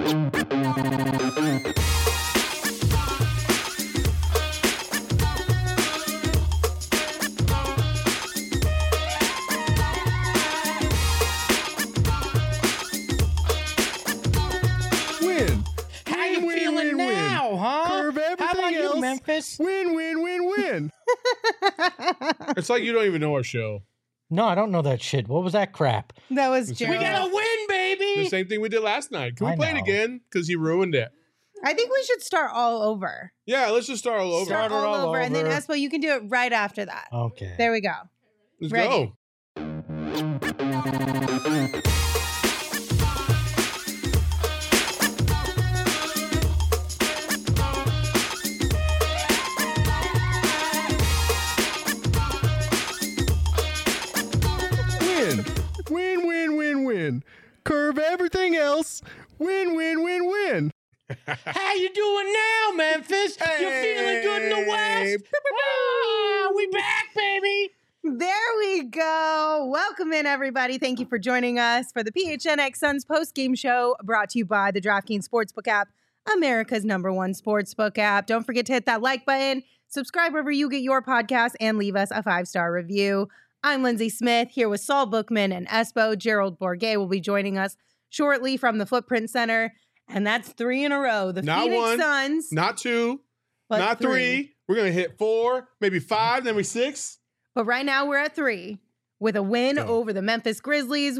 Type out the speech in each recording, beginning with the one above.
How you feeling now, huh? Curve everything How about else. you, Memphis? Win. It's like you don't even know our show. No, I don't know that shit. What was that crap? That was We Gerald. We gotta win, baby. The same thing we did last night. Can we I play it know. again? Because you ruined it. I think we should start all over. Yeah, let's just start all over. Start it all all over. And then over. Espo, you can do it right after that. Okay. There we go. Let's Ready. go. Win. Curve everything else. Win. How you doing now, Memphis? You feeling good in the West? Ah, we back, baby. There we go. Welcome in, everybody. Thank you for joining us for the PHNX Suns post-game show brought to you by the DraftKings Sportsbook app, America's #1 sportsbook app. Don't forget to hit that like button, subscribe wherever you get your podcast, and leave us a 5-star review. I'm Lindsay Smith here with Saul Bookman and Espo. Gerald Bourget will be joining us shortly from the Footprint Center. And that's 3 in a row. The Not Phoenix one, Suns. Not 2. but Not 3. We're going to hit 4, maybe 5, then we 6. But right now we're at 3 with a win Go. over the Memphis Grizzlies,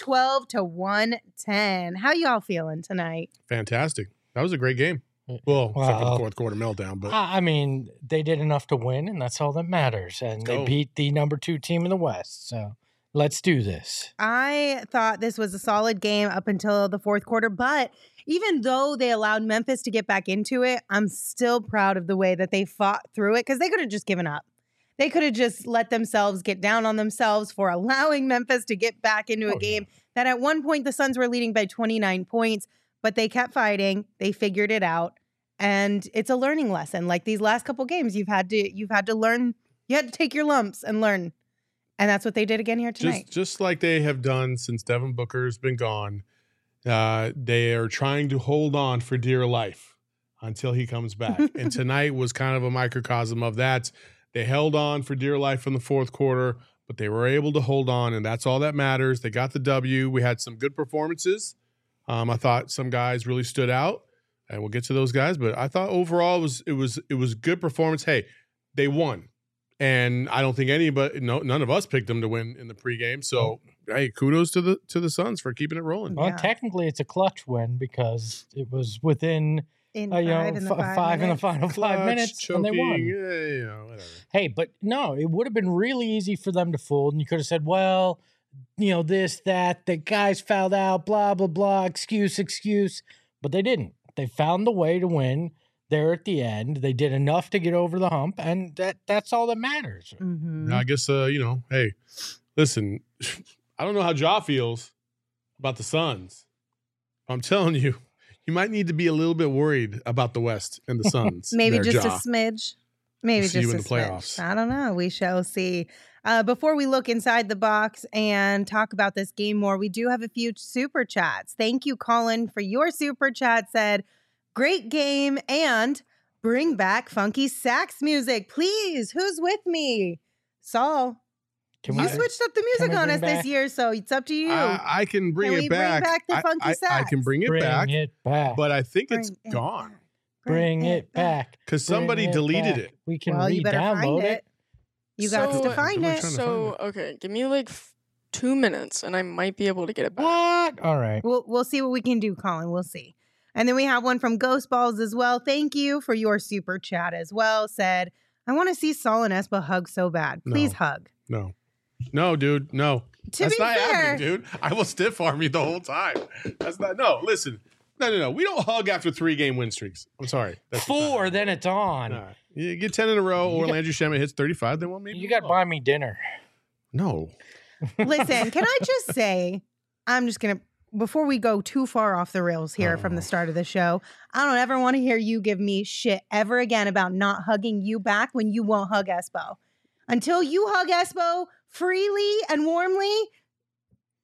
112-110. How y'all feeling tonight? Fantastic. That was a great game. Well, except for the Well, fourth quarter meltdown. But I mean, they did enough to win, and that's all that matters. And they go. beat the #2 team in the West. So let's do this. I thought this was a solid game up until the fourth quarter, but even though they allowed Memphis to get back into it, I'm still proud of the way that they fought through it because they could have just given up. They could have just let themselves get down on themselves for allowing Memphis to get back into a game that at one point the Suns were leading by 29 points, but they kept fighting. They figured it out. And it's a learning lesson. Like these last couple games, you've had to learn, you had to take your lumps and learn. And that's what they did again here tonight. just like they have done since Devin Booker's been gone, they are trying to hold on for dear life until he comes back. And tonight was kind of a microcosm of that. They held on for dear life in the fourth quarter, but they were able to hold on, and that's all that matters. They got the W. We had some good performances. I thought some guys really stood out, and we'll get to those guys. But I thought overall it was good performance. Hey, they won, and I don't think none of us picked them to win in the pregame. So hey, kudos to the Suns for keeping it rolling. Well, Yeah. technically, it's a clutch win because it was within In five in the five in the final 5 minutes, choking, and they won. Whatever. Hey, but no, it would have been really easy for them to fold, and you could have said, well, this, that, the guys fouled out, blah, blah, blah, excuse. But they didn't. They found the way to win there at the end. They did enough to get over the hump, and that's all that matters. Mhm. Now, I guess, hey, listen, I don't know how Ja feels about the Suns. I'm telling you, you might need to be a little bit worried about the West and the Suns. Maybe there, just Ja. a smidge. Maybe We'll see just you a in the smidge. playoffs. I don't know. We shall see. Before we look inside the box and talk about this game more, we do have a few super chats. Thank you, Colin, for your super chat. Said, great game and bring back funky sax music, please. Who's with me? Saul. Can You we- switched up the can music we on bring us back- this year, so it's up to you. I can bring Can it we bring back. back the funky I sax? can bring it back, back. but I think it's Bring it gone back. Bring it back. because Bring somebody it deleted back. it. We can Well, you better find re-download it. it. You got So- to find Good luck it. trying to So, okay, give me like 2 minutes and I might be able to get it back. What? All right. We'll see what we can do, Colin. We'll see. And then we have one from Ghost Balls as well. Thank you for your super chat as well. Said, I want to see Saul and Espa hug so bad. Please No. hug. No, dude, no. To That's be not fair, happening, dude. I will stiff arm you the whole time. That's not. No, listen. No. We don't hug after 3-game win streaks. I'm sorry. That's just not 4, happening. then it's on. Nah. You get 10 in a row, You or got- Landry Shamet hits 35. Then maybe You got to buy me dinner. No. listen, can I just say, I'm just going to, before we go too far off the rails here from the Oh. start of the show, I don't ever want to hear you give me shit ever again about not hugging you back when you won't hug Espo. Until you hug Espo freely and warmly,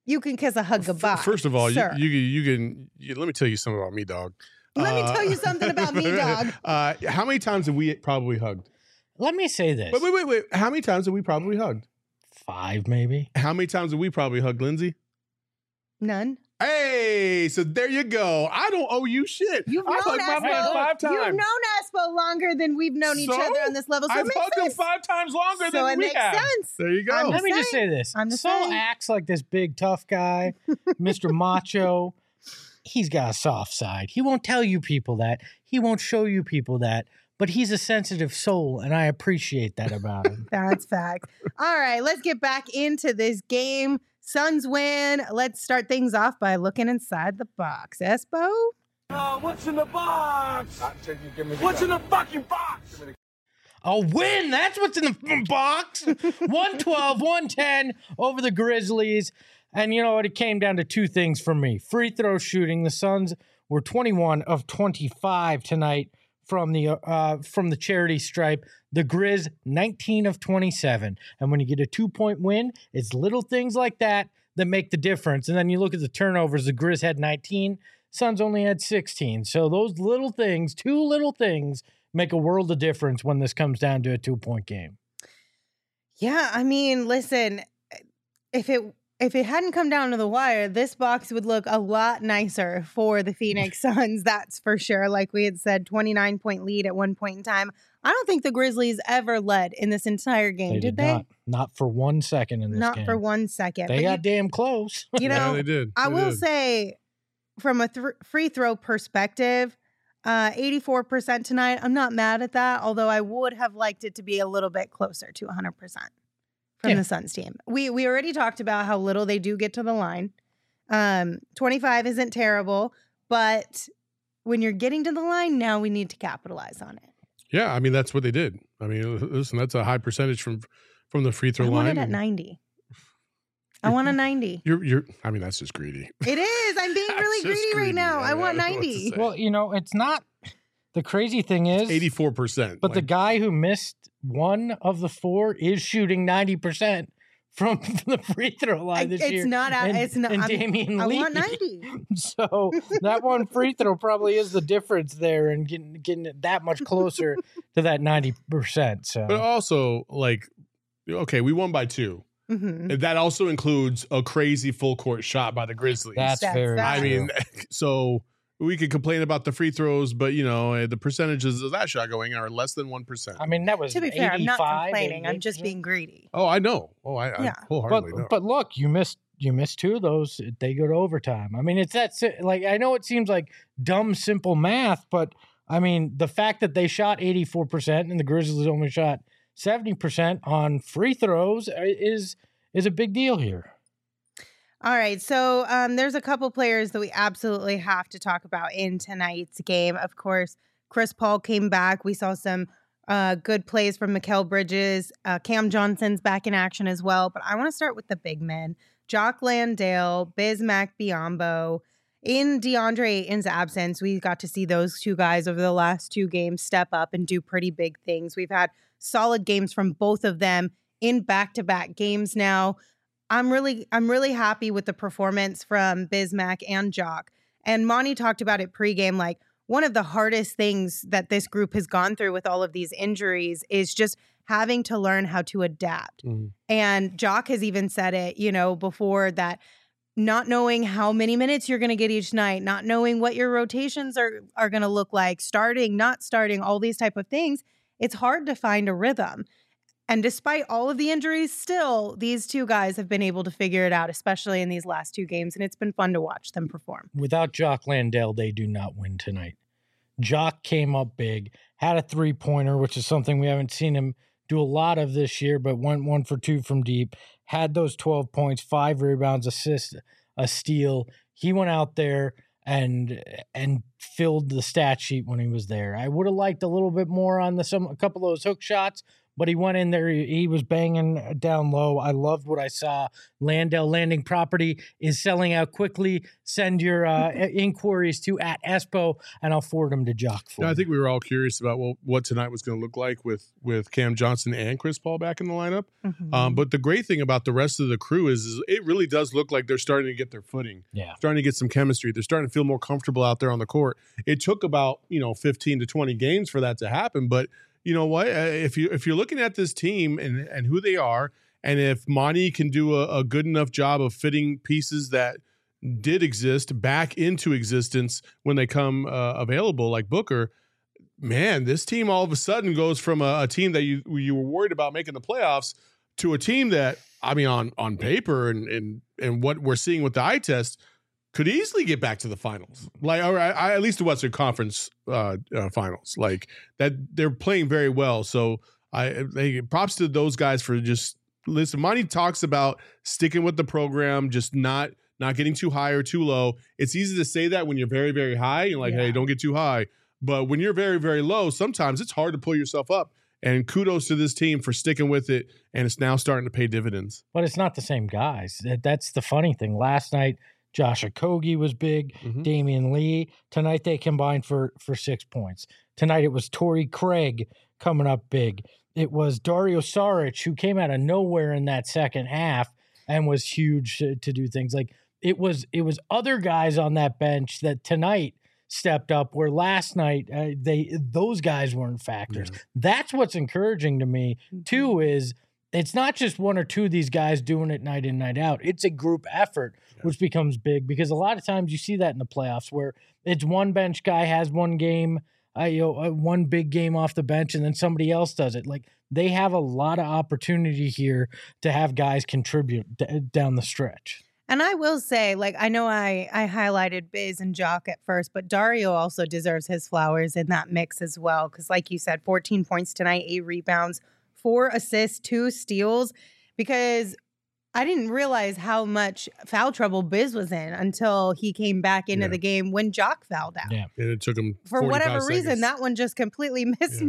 You can kiss a hug goodbye. First of all, sir. you can let me tell you something about me, dog. Let me tell you something about me, dog. How many times have we probably hugged? Let me say this. Wait. How many times have we probably hugged? 5, maybe. How many times have we probably hugged, Lindsay? None. Hey, so there you go. I don't owe you shit. You've I've known hugged my man Espo. 5 times. You've known Espo longer than we've known each So? other on this level. So I've it makes hugged him sense. 5 times longer So than it we makes have. sense. There you go. I'm Let me just saying. say this. I'm just Saul saying. acts like this big tough guy, Mr. Macho. He's got a soft side. He won't tell you people that. He won't show you people that. But he's a sensitive soul, and I appreciate that about him. That's facts. All right, let's get back into this game. Suns win. Let's start things off by looking inside the box. Espo? What's in the box? What's in the fucking box? A win. That's what's in the box. 112, 110 over the Grizzlies. And you know what? It came down to 2 things for me. Free throw shooting. The Suns were 21 of 25 tonight from the charity stripe. The Grizz 19 of 27. And when you get a 2-point win, it's little things like that make the difference. And then you look at the turnovers. The Grizz had 19. Suns only had 16. So those little things, 2 little things, make a world of difference when this comes down to a 2-point game. Yeah, I mean, listen, if it hadn't come down to the wire, this box would look a lot nicer for the Phoenix Suns, that's for sure. Like we had said, 29-point lead at one point in time. I don't think the Grizzlies ever led in this entire game, did they? Not for 1 second in this game. Not for 1 second. They got damn close. You know, Yeah, they did. I They will did. say, from a free throw perspective, 84% tonight. I'm not mad at that, although I would have liked it to be a little bit closer to 100% from the Suns team. We already talked about how little they do get to the line. 25 isn't terrible, but when you're getting to the line, now we need to capitalize on it. Yeah, I mean that's what they did. I mean, listen, that's a high percentage from the free throw I line. want it at 90. I want a 90. You're. I mean, that's just greedy. It is. I'm being That's really just greedy right greedy. now. I want I don't know what to 90. say. Well, you know, it's not. The crazy thing is 84%. But the guy who missed 1 of the 4 is shooting 90% from the free throw line this year. It's not. And, It's not. and Damian I Lee. want 90. So that one free throw probably is the difference there and getting it that much closer to that 90%. So, But also, like, okay, we won by 2. Mm-hmm. And that also includes a crazy full court shot by the Grizzlies. that's very. That's I mean, so we could complain about the free throws, but you know, the percentages of that shot going are less than 1%. I mean, that was To be fair, I'm not 85, complaining. I'm just 88%. being greedy. Oh, I know. Oh, I Yeah. wholeheartedly know. But look, you missed 2 of those. They go to overtime. I mean, it's that like I know it seems like dumb, simple math, but I mean the fact that they shot 84% and the Grizzlies only shot 70% on free throws is a big deal here. All right. So there's a couple players that we absolutely have to talk about in tonight's game. Of course, Chris Paul came back. We saw some good plays from Mikal Bridges. Cam Johnson's back in action as well. But I want to start with the big men. Jock Landale, Bismack Biyombo. In DeAndre Ayton's absence, we got to see those 2 guys over the last 2 games step up and do pretty big things. We've had solid games from both of them in back-to-back games now. I'm really happy with the performance from Bismack and Jock. And Monty talked about it pregame, like one of the hardest things that this group has gone through with all of these injuries is just having to learn how to adapt. Mhm. And Jock has even said it, you know, before that not knowing how many minutes you're going to get each night, not knowing what your rotations are going to look like, starting, not starting, all these type of things. It's hard to find a rhythm. And despite all of the injuries, still, these 2 guys have been able to figure it out, especially in these last 2 games. And it's been fun to watch them perform. Without Jock Landale, they do not win tonight. Jock came up big, had a 3-pointer, which is something we haven't seen him do a lot of this year, but went 1 for 2 from deep, had those 12 points, 5 rebounds, assist, a steal. He went out there and filled the stat sheet when he was there. I would have liked a little bit more on a couple of those hook shots, but he went in there. He was banging down low. I loved what I saw. Landell Landing Property is selling out quickly. Send your inquiries to @Espo, and I'll forward them to Jock for Yeah, I you. think we were all curious about what tonight was going to look like with Cam Johnson and Chris Paul back in the lineup. But the great thing about the rest of the crew is it really does look like they're starting to get their footing. Yeah. Starting to get some chemistry. They're starting to feel more comfortable out there on the court. It took about 15 to 20 games for that to happen, but you know what? If you're looking at this team and who they are, and if Monty can do a good enough job of fitting pieces that did exist back into existence when they come available, like Booker, man, this team all of a sudden goes from a team that you were worried about making the playoffs to a team that, I mean, on paper and what we're seeing with the eye test, could easily get back to the finals, like, or at least the Western Conference finals, like that. They're playing very well, so props to those guys for just listen. Monty talks about sticking with the program, just not getting too high or too low. It's easy to say that when you're very, very high. You're like, hey, don't get too high. But when you're very, very low, sometimes it's hard to pull yourself up. And kudos to this team for sticking with it, and it's now starting to pay dividends. But it's not the same guys. That's the funny thing. Last night, Josh Okogie was big. Damian Lee. Tonight they combined for 6 points. Tonight it was Torrey Craig coming up big. It was Dario Saric, who came out of nowhere in that second half and was huge to do things. Like it was other guys on that bench that tonight stepped up, where last night those guys weren't factors. That's what's encouraging to me too. Is it's not just one or two of these guys doing it night in, night out. It's a group effort, which becomes big, because a lot of times you see that in the playoffs where it's one bench guy has one game, one big game off the bench, and then somebody else does it. Like they have a lot of opportunity here to have guys contribute down the stretch. And I will say, like, I know I highlighted Biz and Jock at first, but Dario also deserves his flowers in that mix as well. Because like you said, 14 points tonight, 8 rebounds, 4 assists, 2 steals, because I didn't realize how much foul trouble Biz was in until he came back into the game when Jock fouled out. Yeah. And it took him For whatever 45 reason, seconds. that one just completely missed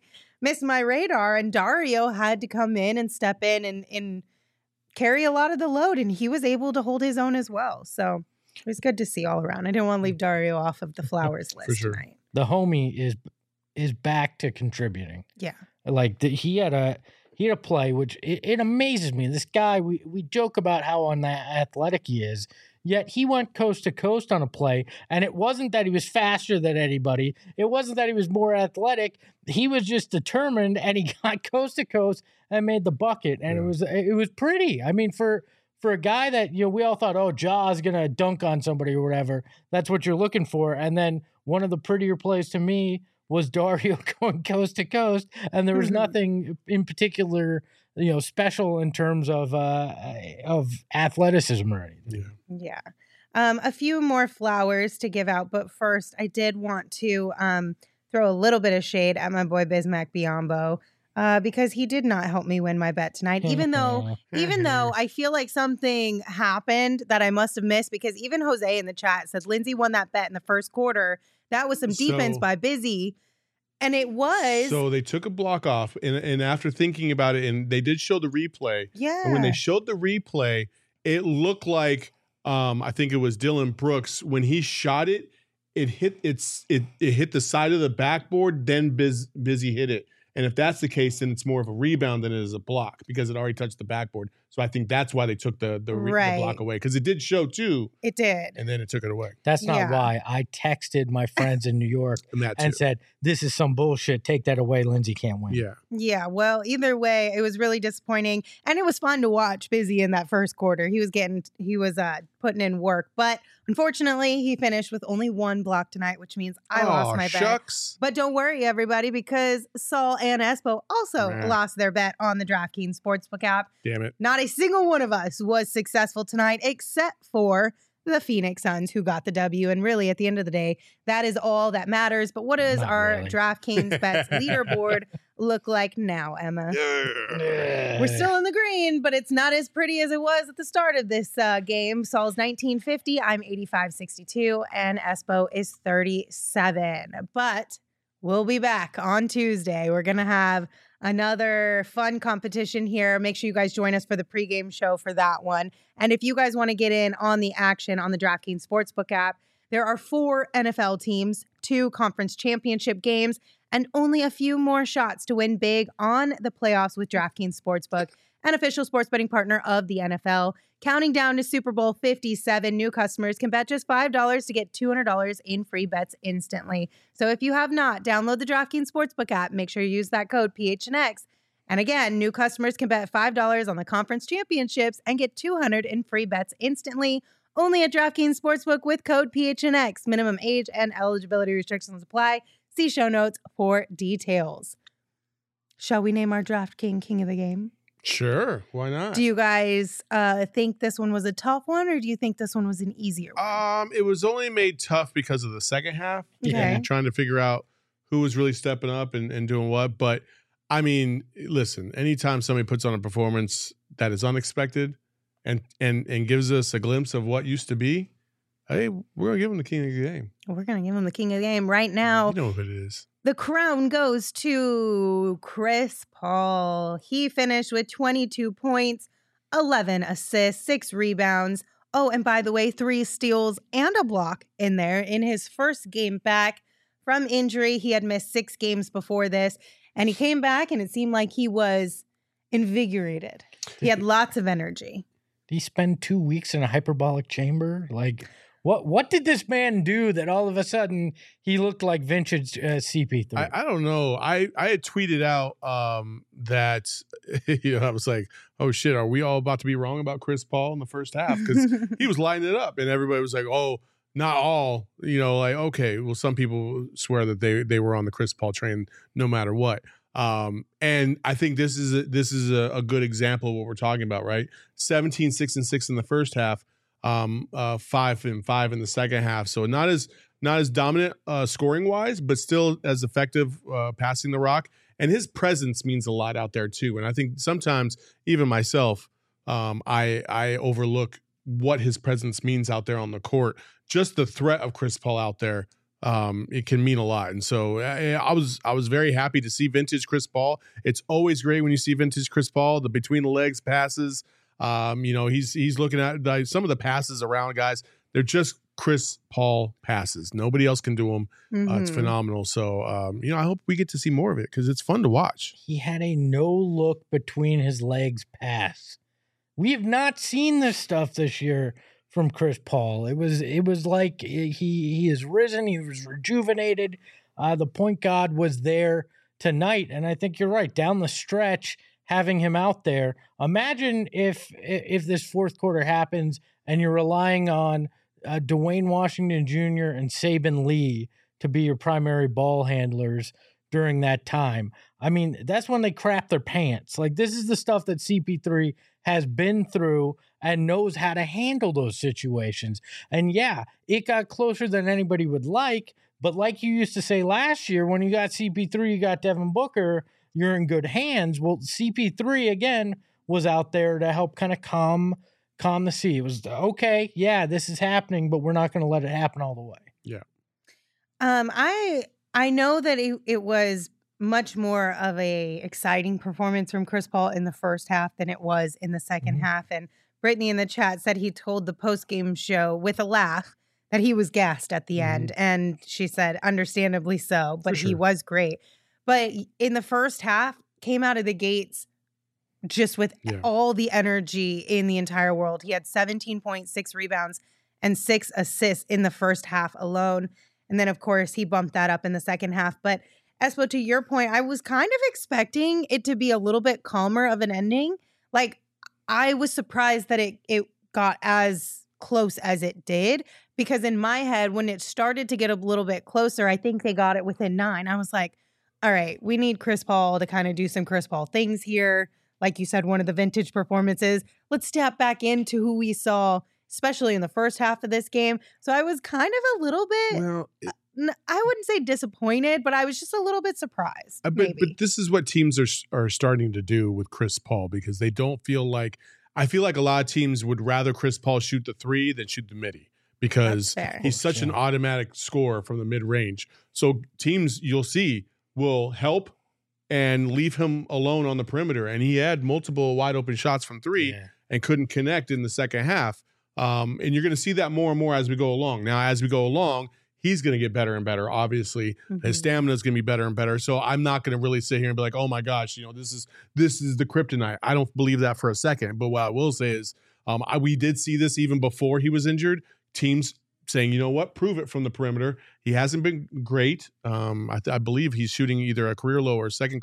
my radar. And Dario had to come in and step in and carry a lot of the load, and he was able to hold his own as well. So it was good to see all around. I didn't want to leave Dario off of the flowers list tonight. The homie is back to contributing. Yeah. Like he had a play, which it amazes me. This guy, we joke about how unathletic he is, yet he went coast to coast on a play, and it wasn't that he was faster than anybody. It wasn't that he was more athletic. He was just determined, and he got coast to coast and made the bucket, and it was pretty. I mean, for a guy that we all thought, oh, Ja's gonna dunk on somebody or whatever. That's what you're looking for, and then one of the prettier plays to me was Dario going coast to coast, and there was nothing in particular, special in terms of athleticism or anything. Yeah. A few more flowers to give out, but first I did want to throw a little bit of shade at my boy Bismack Biyombo, because he did not help me win my bet tonight, even though I feel like something happened that I must have missed, because even Jose in the chat said Lindsay won that bet in the first quarter. That was some defense by Busy. And it was. So they took a block off, and after thinking about it, and they did show the replay. Yeah. And when they showed the replay, it looked like I think it was Dylan Brooks. When he shot it, it hit the side of the backboard, then Busy hit it. And if that's the case, then it's more of a rebound than it is a block, because it already touched the backboard. So I think that's why they took the block away, because it did show too. It did. And then it took it away. That's not why. I texted my friends in New York and said, this is some bullshit. Take that away. Lindsay can't win. Yeah. Yeah. Well, either way, it was really disappointing. And it was fun to watch Busy in that first quarter. He was putting in work. But unfortunately, he finished with only 1 block tonight, which means I lost my bet. But don't worry, everybody, because Saul and Espo also lost their bet on the DraftKings Sportsbook app. Damn it. Not a single one of us was successful tonight, except for the Phoenix Suns, who got the W. And really, at the end of the day, that is all that matters. But what does our DraftKings bets leaderboard look like now, Emma? We're still in the green, but it's not as pretty as it was at the start of this game. Saul's 1950, I'm 85.62, and Espo is 37. But we'll be back on Tuesday. We're going to have another fun competition here. Make sure you guys join us for the pregame show for that one. And if you guys want to get in on the action on the DraftKings Sportsbook app, there are 4 NFL teams, 2 conference championship games, and only a few more shots to win big on the playoffs with DraftKings Sportsbook, an official sports betting partner of the NFL. Counting down to Super Bowl 57, new customers can bet just $5 to get $200 in free bets instantly. So if you have not, download the DraftKings Sportsbook app. Make sure you use that code PHNX. And again, new customers can bet $5 on the conference championships and get $200 in free bets instantly. Only at DraftKings Sportsbook with code PHNX. Minimum age and eligibility restrictions apply. See show notes for details. Shall we name our DraftKings King of the Game? Sure, why not? Do you guys think this one was a tough one, or do you think this one was an easier one? It was only made tough because of the second half. Okay. And trying to figure out who was really stepping up and doing what. But I mean, listen, anytime somebody puts on a performance that is unexpected and gives us a glimpse of what used to be, hey, we're gonna give him the king of the game. We're going to give him the King of the Game right now. You know what it is. The crown goes to Chris Paul. He finished with 22 points, 11 assists, 6 rebounds. Oh, and by the way, 3 steals and a block in there in his first game back from injury. He had missed 6 games before this, and he came back, and it seemed like he was invigorated. He had lots of energy. Did he spend 2 weeks in a hyperbolic chamber? Like, what did this man do that all of a sudden he looked like vintage CP3? I don't know. I had tweeted out that I was like, oh shit, are we all about to be wrong about Chris Paul in the first half? Because he was lining it up and everybody was like, oh, not all, like, okay, well, some people swear that they were on the Chris Paul train no matter what. And I think this is a good example of what we're talking about, right? 17, 6 and 6 in the first half, 5 and 5 in the second half. So not as dominant scoring wise, but still as effective passing the rock. And his presence means a lot out there too. And I think sometimes even myself, I overlook what his presence means out there on the court. Just the threat of Chris Paul out there, it can mean a lot. And so I was very happy to see vintage Chris Paul. It's always great when you see vintage Chris Paul, the between the legs passes. He's looking at like, some of the passes around guys. They're just Chris Paul passes. Nobody else can do them. It's phenomenal. So, I hope we get to see more of it because it's fun to watch. He had a no look between his legs pass. We have not seen this stuff this year from Chris Paul. It was like he is risen. He was rejuvenated. The point guard was there tonight, and I think you're right. Down the stretch, having him out there. Imagine if this fourth quarter happens and you're relying on Dwayne Washington Jr. and Saban Lee to be your primary ball handlers during that time. I mean, that's when they crap their pants. Like, this is the stuff that CP3 has been through and knows how to handle those situations. And yeah, it got closer than anybody would like, but like you used to say last year, when you got CP3, you got Devin Booker, you're in good hands. Well, CP3, again, was out there to help kind of calm the sea. It was, okay, yeah, this is happening, but we're not going to let it happen all the way. Yeah. I know that it was much more of a exciting performance from Chris Paul in the first half than it was in the second half. And Brittany in the chat said he told the post-game show with a laugh that he was gassed at the end. And she said, understandably so, but he was great. But in the first half, came out of the gates just with all the energy in the entire world. He had 17.6 rebounds and 6 assists in the first half alone. And then, of course, he bumped that up in the second half. But Espo, to your point, I was kind of expecting it to be a little bit calmer of an ending. Like, I was surprised that it got as close as it did, because in my head, when it started to get a little bit closer, I think they got it within 9. I was like, all right, we need Chris Paul to kind of do some Chris Paul things here. Like you said, one of the vintage performances. Let's step back into who we saw, especially in the first half of this game. So I was kind of a little bit, I wouldn't say disappointed, but I was just a little bit surprised. But this is what teams are starting to do with Chris Paul, because they don't feel like, I feel like a lot of teams would rather Chris Paul shoot the 3 than shoot the midi, because That's fair. he's such an automatic scorer from the mid-range. So teams, you'll see, will help and leave him alone on the perimeter. And he had multiple wide open shots from three and couldn't connect in the second half. And you're going to see that more and more as we go along. Now, as we go along, he's going to get better and better, obviously. His stamina is going to be better and better. So I'm not going to really sit here and be like, oh my gosh, this is the kryptonite. I don't believe that for a second. But what I will say is we did see this even before he was injured. Teams saying, you know what, prove it from the perimeter. He hasn't been great. I believe he's shooting either a career low or second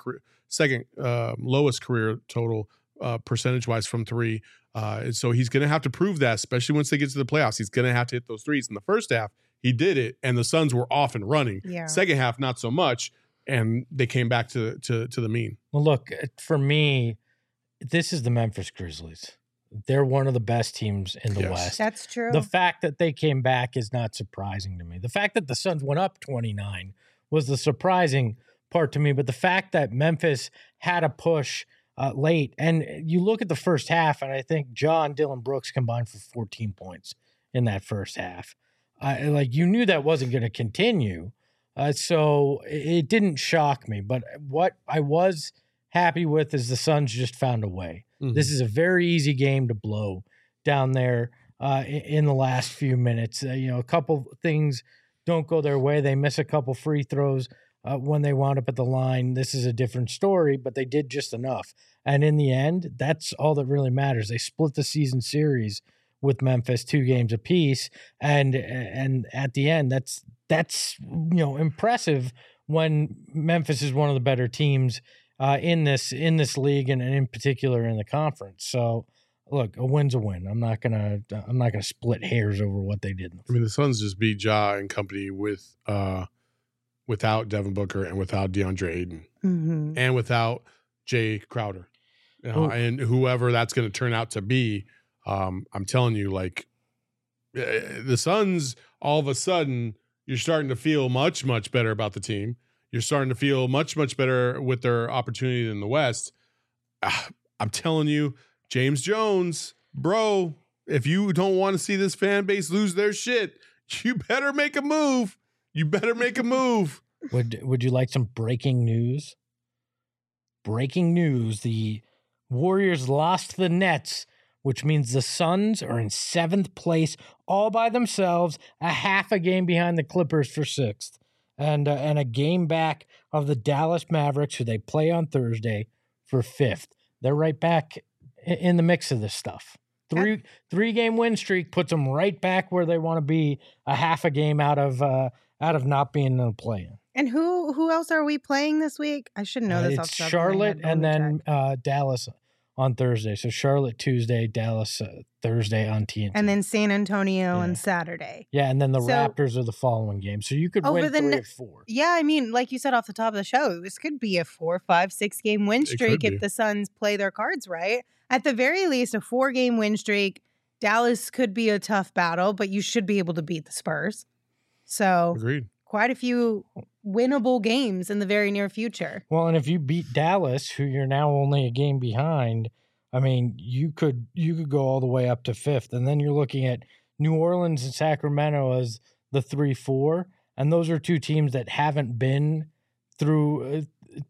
lowest career total percentage-wise from three. So he's going to have to prove that, especially once they get to the playoffs. He's going to have to hit those threes. In the first half, he did it, and the Suns were off and running. Yeah. Second half, not so much, and they came back to the mean. Well, look, for me, this is the Memphis Grizzlies. They're one of the best teams in the West. That's true. The fact that they came back is not surprising to me. The fact that the Suns went up 29 was the surprising part to me. But the fact that Memphis had a push late, and you look at the first half, and I think John Dillon Brooks combined for 14 points in that first half. You knew that wasn't going to continue. So it didn't shock me. But what I was happy with is the Suns just found a way. This is a very easy game to blow down there in the last few minutes. A couple things don't go their way. They miss a couple free throws when they wound up at the line. This is a different story, but they did just enough. And in the end, that's all that really matters. They split the season series with Memphis 2 games apiece. And at the end, that's impressive when Memphis is one of the better teams in this league and in particular in the conference. So look, a win's a win. I'm not gonna split hairs over what they did. I mean, the Suns just beat Ja and company without Devin Booker and without DeAndre Ayton and without Jay Crowder, and whoever that's going to turn out to be. I'm telling you, the Suns, all of a sudden, you're starting to feel much, much better about the team. You're starting to feel much, much better with their opportunity in the West. I'm telling you, James Jones, bro, if you don't want to see this fan base lose their shit, you better make a move. You better make a move. Would you like some breaking news? Breaking news. The Warriors lost the Nets, which means the Suns are in 7th place all by themselves, a half a game behind the Clippers for 6th. And a game back of the Dallas Mavericks, who they play on Thursday, for 5th. They're right back in the mix of this stuff. Three-game win streak puts them right back where they want to be, a half a game out of not being in the play-in. And who else are we playing this week? I should know this. It's Charlotte and then Dallas on Thursday. So Charlotte Tuesday, Dallas Thursday on TNT. And then San Antonio on Saturday. Yeah, and then the Raptors are the following game. So you could win 3 or 4. Yeah, I mean, like you said off the top of the show, this could be a 4, 5, 6 game win streak if the Suns play their cards right. At the very least, a 4-game win streak. Dallas could be a tough battle, but you should be able to beat the Spurs. So agreed. Quite a few winnable games in the very near future. Well, and if you beat Dallas, who you're now only a game behind, I mean, you could go all the way up to 5th, and then you're looking at New Orleans and Sacramento as the 3-4, and those are 2 teams that haven't been through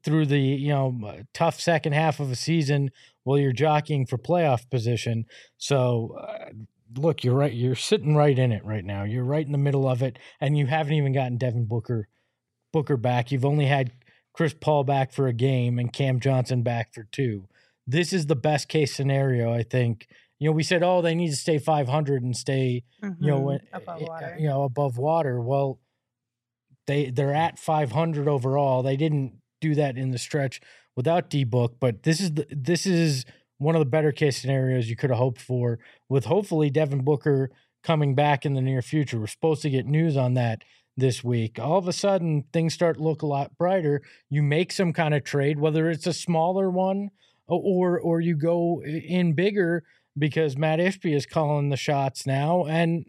the tough second half of a season while you're jockeying for playoff position. So. Look, you're right. You're sitting right in it right now. You're right in the middle of it, and you haven't even gotten Devin Booker back. You've only had Chris Paul back for a game and Cam Johnson back for 2. This is the best case scenario, I think. We said, they need to stay 500 and stay, above water. Above water. Well, they're at 500 overall. They didn't do that in the stretch without D-Book, but this is one of the better case scenarios you could have hoped for, with hopefully Devin Booker coming back in the near future. We're supposed to get news on that this week. All of a sudden, things start to look a lot brighter. You make some kind of trade, whether it's a smaller one or you go in bigger, because Matt Ishbia is calling the shots now, and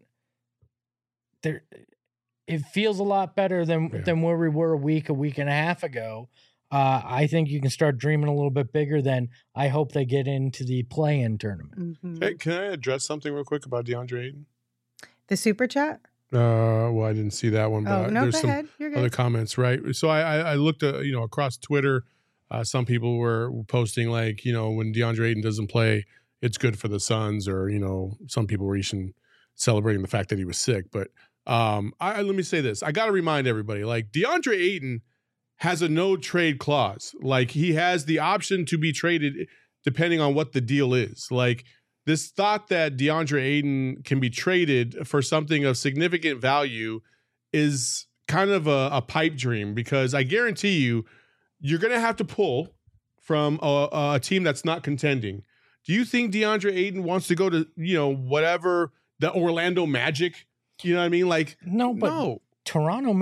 it feels a lot better than where we were a week and a half ago. I think you can start dreaming a little bit bigger than I hope they get into the play-in tournament. Mm-hmm. Hey, can I address something real quick about DeAndre Ayton? The super chat? Well, I didn't see that one, but Oh, no, there's go some ahead. You're other good. comments, right? So I looked at, across Twitter, some people were posting like, when DeAndre Ayton doesn't play, it's good for the Suns, or, some people were even celebrating the fact that he was sick. But let me say this. I got to remind everybody, like, DeAndre Ayton has a no trade clause. Like, he has the option to be traded depending on what the deal is. Like, this thought that DeAndre Ayton can be traded for something of significant value is kind of a pipe dream, because I guarantee you're going to have to pull from a team that's not contending. Do you think DeAndre Ayton wants to go to, whatever, the Orlando Magic? You know what I mean? Like, no. Toronto,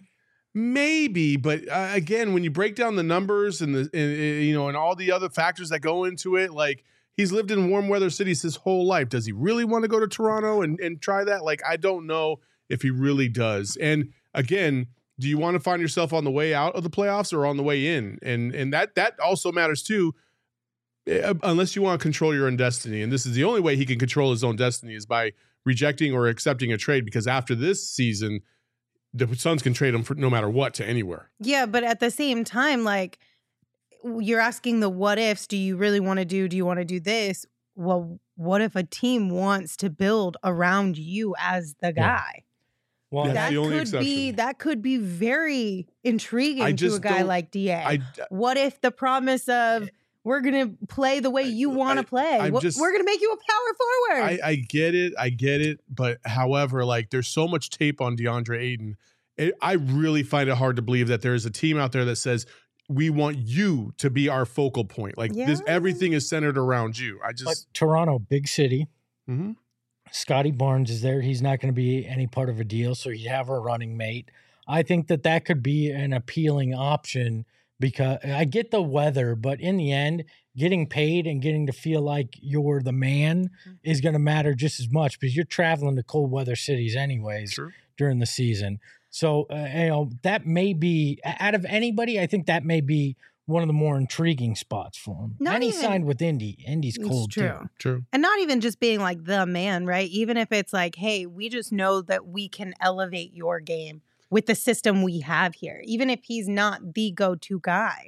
maybe, but again, when you break down the numbers and and all the other factors that go into it, like, he's lived in warm weather cities his whole life. Does he really want to go to Toronto and try that? Like, I don't know if he really does. And again, do you want to find yourself on the way out of the playoffs or on the way in? And that also matters too, unless you want to control your own destiny. And this is the only way he can control his own destiny, is by rejecting or accepting a trade, because after this season, the Suns can trade him for no matter what to anywhere. Yeah, but at the same time, like, you're asking the what ifs. Do you really want to do you want to do this? Well, what if a team wants to build around you as the guy? Well, That's that the only could be exception. that could be very intriguing I to a just guy don't- like DA. What if the promise of we're gonna play the way you want to play? I'm We're just- gonna make you a power forward. I get it. But however, like, there's so much tape on DeAndre Ayton. I really find it hard to believe that there is a team out there that says, we want you to be our focal point. Like, Yeah. everything is centered around you. but Toronto, big city. Mhm. Scotty Barnes is there. He's not going to be any part of a deal, so you have a running mate. I think that could be an appealing option, because I get the weather, but in the end, getting paid and getting to feel like you're the man is going to matter just as much, because you're traveling to cold weather cities anyways True. during the season. So, that may be, out of anybody, I think that may be one of the more intriguing spots for him. Not And he even- signed with Indy. Indy's It's cold true. too. True. And not even just being like the man, right? Even if it's like, hey, we just know that we can elevate your game with the system we have here, even if he's not the go-to guy.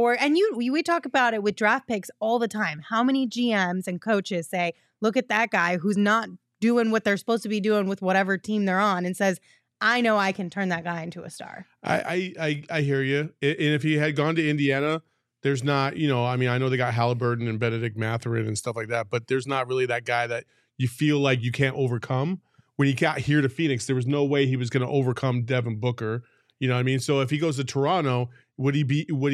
We talk about it with draft picks all the time. How many GMs and coaches say, look at that guy who's not doing what they're supposed to be doing with whatever team they're on, and says, I know I can turn that guy into a star. I hear you. And if he had gone to Indiana, there's not, I know they got Halliburton and Benedict Mathurin and stuff like that, but there's not really that guy that you feel like you can't overcome. When he got here to Phoenix, there was no way he was going to overcome Devin Booker. You know what I mean? So if he goes to Toronto, would he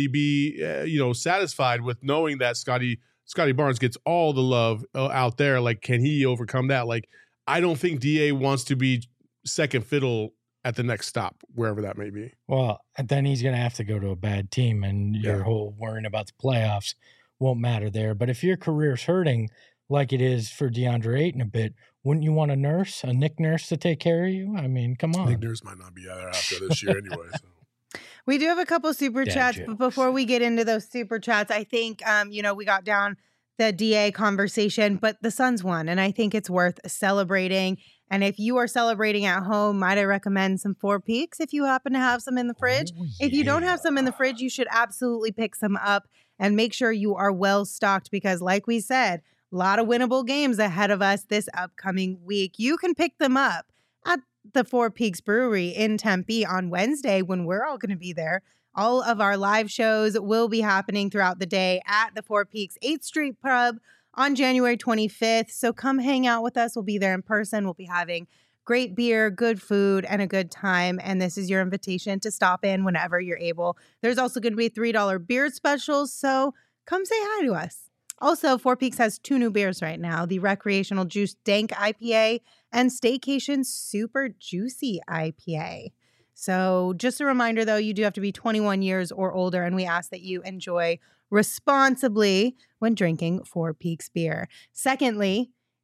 be satisfied with knowing that Scotty Barnes gets all the love out there? Like, can he overcome that? Like, I don't think DA wants to be second fiddle at the next stop, wherever that may be. Well, then he's going to have to go to a bad team, and your Yeah. whole worrying about the playoffs won't matter there. But if your career's hurting like it is for DeAndre Ayton a bit, wouldn't you want a Nick Nurse to take care of you? I mean, come on. Nick Nurse might not be there after this year anyway. So. We do have a couple super Dad chats, jokes. but before we get into those super chats, I think we got down the DA conversation, but the Suns won, and I think it's worth celebrating. And if you are celebrating at home, might I recommend some Four Peaks if you happen to have some in the fridge? Oh, If you don't have yeah. some in the fridge, you should absolutely pick some up and make sure you are well stocked, because like we said, a lot of winnable games ahead of us this upcoming week. You can pick them up at the Four Peaks Brewery in Tempe on Wednesday, when we're all going to be there. All of our live shows will be happening throughout the day at the Four Peaks 8th Street Pub on January 25th. So come hang out with us. We'll be there in person. We'll be having great beer, good food, and a good time. And this is your invitation to stop in whenever you're able. There's also going to be $3 beer specials. So come say hi to us. Also, Four Peaks has 2 new beers right now, the Recreational Juice Dank IPA and Staycation Super Juicy IPA. So just a reminder, though, you do have to be 21 years or older, and we ask that you enjoy responsibly when drinking Four Peaks beer. Secondly,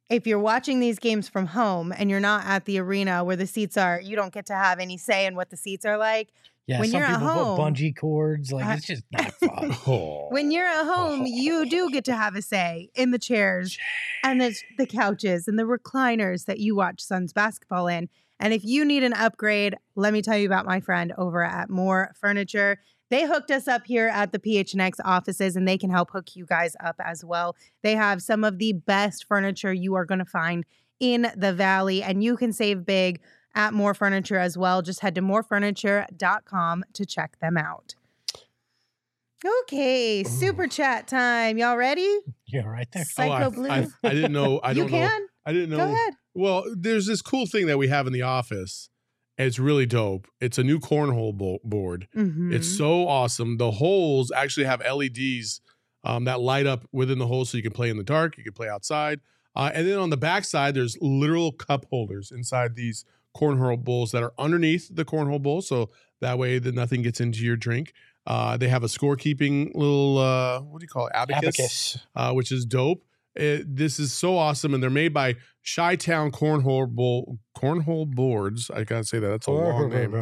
if you're watching these games from home and you're not at the arena where the seats are, you don't get to have any say in what the seats are like. Yeah, When some you're at people home- put bungee cords. Like, it's just not fun. Oh. When you're at home, you do get to have a say in the chairs and the couches and the recliners that you watch Suns basketball in. And if you need an upgrade, let me tell you about my friend over at More Furniture. They hooked us up here at the PHNX offices, and they can help hook you guys up as well. They have some of the best furniture you are going to find in the Valley, and you can save big at More Furniture as well. Just head to morefurniture.com to check them out. Okay, super chat time. Y'all ready? Yeah, right there. Psycho Blue. I didn't know. I You don't know. can? I didn't know. Go ahead. Well, there's this cool thing that we have in the office. It's really dope. It's a new cornhole board. Mhm. It's so awesome. The holes actually have LEDs that light up within the hole, so you can play in the dark, you can play outside. And then on the back side, there's literal cup holders inside these cornhole bowls that are underneath the cornhole bowl, so that way that nothing gets into your drink. They have a scorekeeping little what do you call it? Abacus. Which is dope. This is so awesome, and they're made by Chi-Town Cornhole Boards. I gotta say that. That's a long name.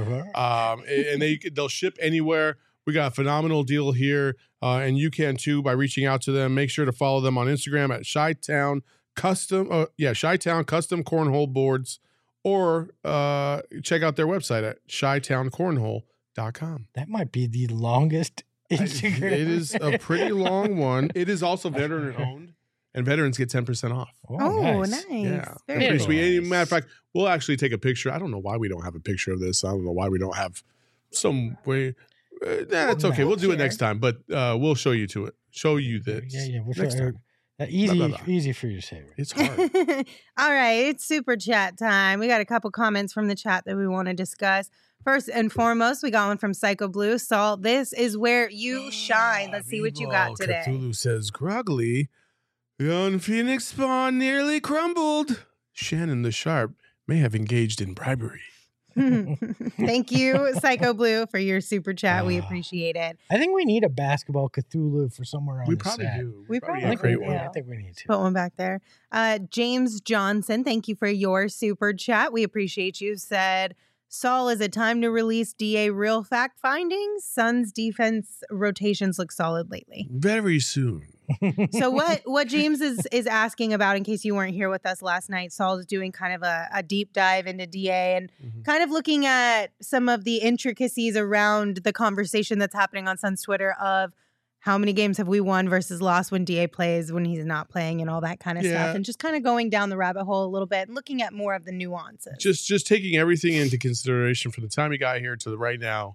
And they'll ship anywhere. We got a phenomenal deal here, and you can too by reaching out to them. Make sure to follow them on Instagram at Chi-Town Custom. Chi-Town Custom Cornhole Boards, or check out their website at chitowncornhole.com. That might be the longest Instagram. It is a pretty long one. It is also veteran owned, and veterans get 10% off. Oh, nice. Yeah, Very pretty cool. sweet. Matter of fact, we'll actually take a picture. I don't know why we don't have a picture of this. I don't know why we don't have some way. It's okay. We'll do it next time, but we'll show you to it. Show you this. Yeah. We'll next show time. Easy, Blah, blah, blah. easy for you to say. Right? It's hard. All right, it's super chat time. We got a couple comments from the chat that we want to discuss. First and foremost, we got one from Psycho Blue. Salt, this is where you shine. Let's see what you got today. Cthulhu says, groggily, yon Phoenix spawn nearly crumbled. Shannon the Sharp may have engaged in bribery. Thank you, Psycho Blue, for your super chat. We appreciate it. I think we need a basketball Cthulhu for somewhere on We the probably set. do. We need probably to create do. one. Yeah. I think we need to. Put one back there. James Johnson, thank you for your super chat. We appreciate you. Said, Saul, is it time to release DA real fact findings? Suns defense rotations look solid lately. Very soon. So what James is asking about, in case you weren't here with us last night, Saul is doing kind of a deep dive into DA and kind of looking at some of the intricacies around the conversation that's happening on Suns Twitter of how many games have we won versus lost when DA plays, when he's not playing, and all that kind of stuff. And just kind of going down the rabbit hole a little bit and looking at more of the nuances. Just taking everything into consideration from the time he got here to the right now,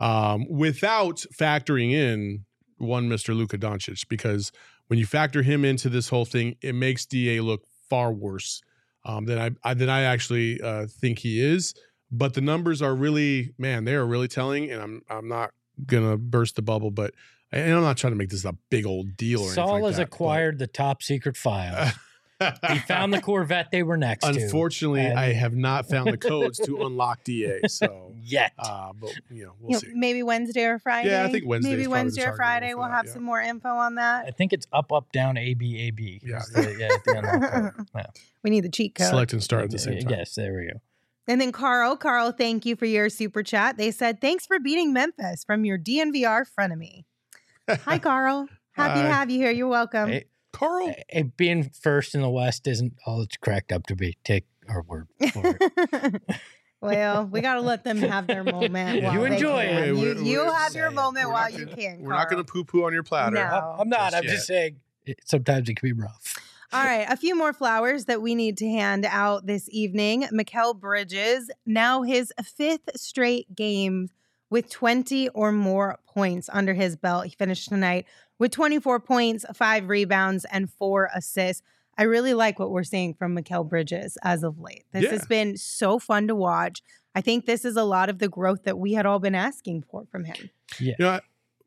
without factoring in one Mr. Luka Doncic, because when you factor him into this whole thing, it makes DA look far worse than I actually think he is. But the numbers are really, man, they are really telling. And I'm not gonna burst the bubble, but and I'm not trying to make this a big old deal. Or Saul anything like has that, acquired the top secret files. He found the Corvette they were next to. Unfortunately, and- I have not found the codes to unlock DA. So Yet. but we'll see. Maybe Wednesday or Friday. Yeah, I think Wednesday is Maybe probably the Wednesday or target Friday. for We'll that, have yeah. some more info on that. I think it's up, up, down, A, B, A, B. Yeah. At the unlock code. Yeah. We need the cheat code. Select and start at the same time. Yes, there we go. And then Carl, thank you for your super chat. They said, thanks for beating Memphis from your DNVR frenemy. Hi, Carl. Happy to Hi. have you here. You're welcome. Hey, Carl. being first in the West isn't all it's cracked up to be. Take our word for it. Well, we got to let them have their moment. Yeah. while You they enjoy can. it. You have your saying. moment We're while not you gonna- can. We're not going to Carl. poo-poo on your platter. No. I'm not. Just I'm yet. just saying sometimes it can be rough. All right, a few more flowers that we need to hand out this evening. Mikal Bridges, now his 5th straight game with 20 or more points under his belt. He finished tonight with 24 points, 5 rebounds, and 4 assists. I really like what we're seeing from Mikal Bridges as of late. This Yeah. has been so fun to watch. I think this is a lot of the growth that we had all been asking for from him. You know,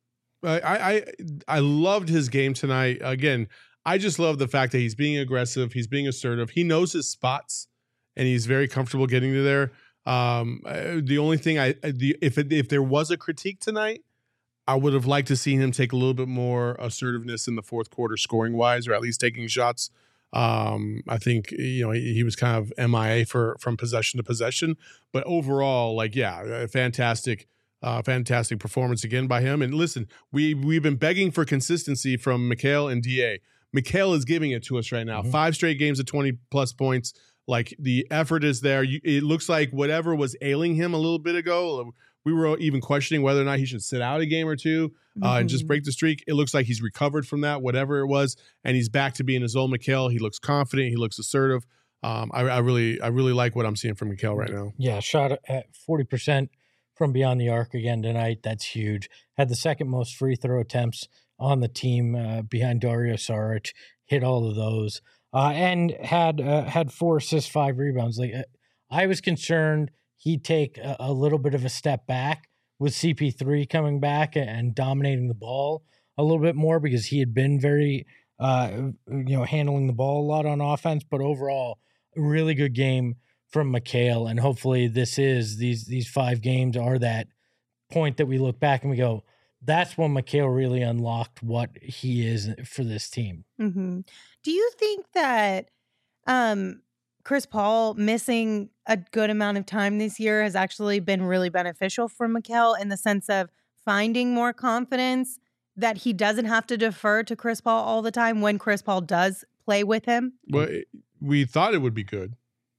I loved his game tonight. Again, I just love the fact that he's being aggressive. He's being assertive. He knows his spots, and he's very comfortable getting to there. The only thing if there was a critique tonight, I would have liked to see him take a little bit more assertiveness in the fourth quarter, scoring wise, or at least taking shots I think he was kind of MIA from possession to possession, but overall, a fantastic performance again by him. And listen, we've been begging for consistency from Mikal and DA. Mikal is giving it to us right now. 5 straight games of 20 plus points. Like, the effort is there. It looks like whatever was ailing him a little bit ago, we were even questioning whether or not he should sit out a game or two and just break the streak. It looks like he's recovered from that, whatever it was, and he's back to being his old Mikal. He looks confident. He looks assertive. I really like what I'm seeing from Mikal right now. Yeah, shot at 40% from beyond the arc again tonight. That's huge. Had the second most free throw attempts on the team behind Dario Saric. Hit all of those. And had 4 assists, 5 rebounds. I was concerned he'd take a little bit of a step back with CP3 coming back and dominating the ball a little bit more, because he had been very, handling the ball a lot on offense. But overall, a really good game from Mikal, and hopefully these 5 games are that point that we look back and we go, that's when Mikal really unlocked what he is for this team. Mm-hmm. Do you think that Chris Paul missing a good amount of time this year has actually been really beneficial for Mikal, in the sense of finding more confidence that he doesn't have to defer to Chris Paul all the time when Chris Paul does play with him? Well, we thought it would be good.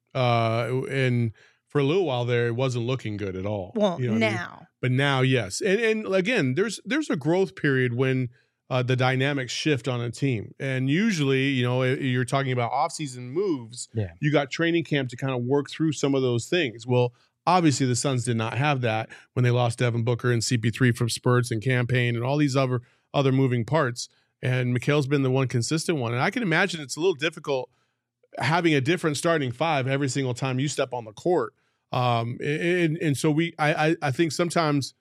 And for a little while there, it wasn't looking good at all. Well, you know now. I mean? But now, yes. And again, there's a growth period when the dynamics shift on a team. And usually, you're talking about offseason moves. Yeah. You got training camp to kind of work through some of those things. Well, obviously the Suns did not have that when they lost Devin Booker and CP3 from spurts and campaign and all these other moving parts. And Mikal's been the one consistent one. And I can imagine it's a little difficult having a different starting 5 every single time you step on the court. And so I think sometimes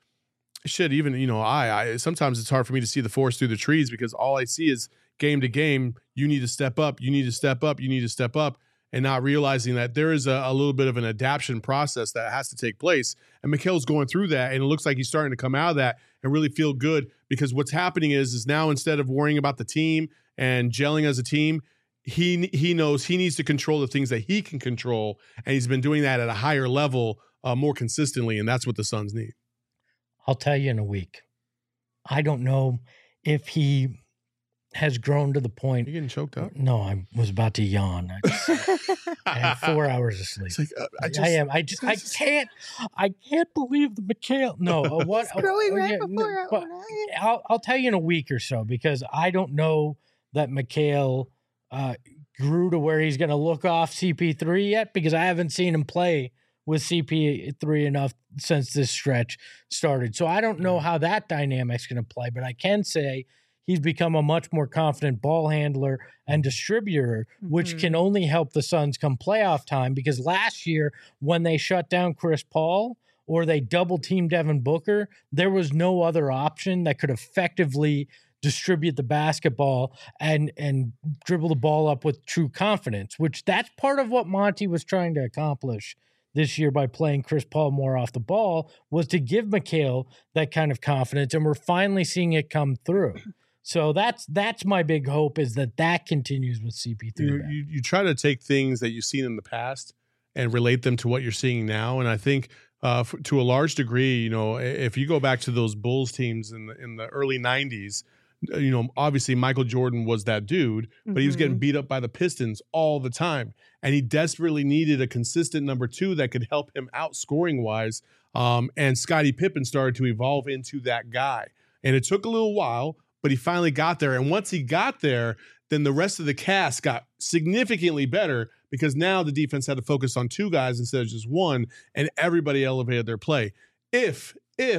sometimes it's hard for me to see the forest through the trees, because all I see is game to game, you need to step up, you need to step up, you need to step up, and not realizing that there is a little bit of an adaptation process that has to take place. And Mikal's going through that, and it looks like he's starting to come out of that and really feel good, because what's happening is now, instead of worrying about the team and gelling as a team, he knows he needs to control the things that he can control, and he's been doing that at a higher level more consistently, and that's what the Suns need. I'll tell you in a week. I don't know if he has grown to the point. You getting choked up? No, I was about to yawn. I had 4 hours of sleep. It's like, I can't believe the Mikal. No, what? Growing right before our own eyes. I'll tell you in a week or so, because I don't know that Mikal grew to where he's going to look off CP3 yet, because I haven't seen him play with CP3 enough since this stretch started. So I don't know how that dynamic's going to play, but I can say he's become a much more confident ball handler and distributor, which can only help the Suns come playoff time, because last year when they shut down Chris Paul or they double teamed Devin Booker, there was no other option that could effectively distribute the basketball and dribble the ball up with true confidence, which that's part of what Monty was trying to accomplish this year by playing Chris Paul more off the ball, was to give Mikal that kind of confidence, and we're finally seeing it come through. So that's my big hope, is that continues with CP3. You try to take things that you've seen in the past and relate them to what you're seeing now, and I think to a large degree, if you go back to those Bulls teams in the early 90s, obviously Michael Jordan was that dude, but he was getting beat up by the Pistons all the time. And he desperately needed a consistent number 2 that could help him out scoring wise. And Scottie Pippen started to evolve into that guy. And it took a little while, but he finally got there. And once he got there, then the rest of the cast got significantly better, because now the defense had to focus on 2 guys instead of just 1, and everybody elevated their play. If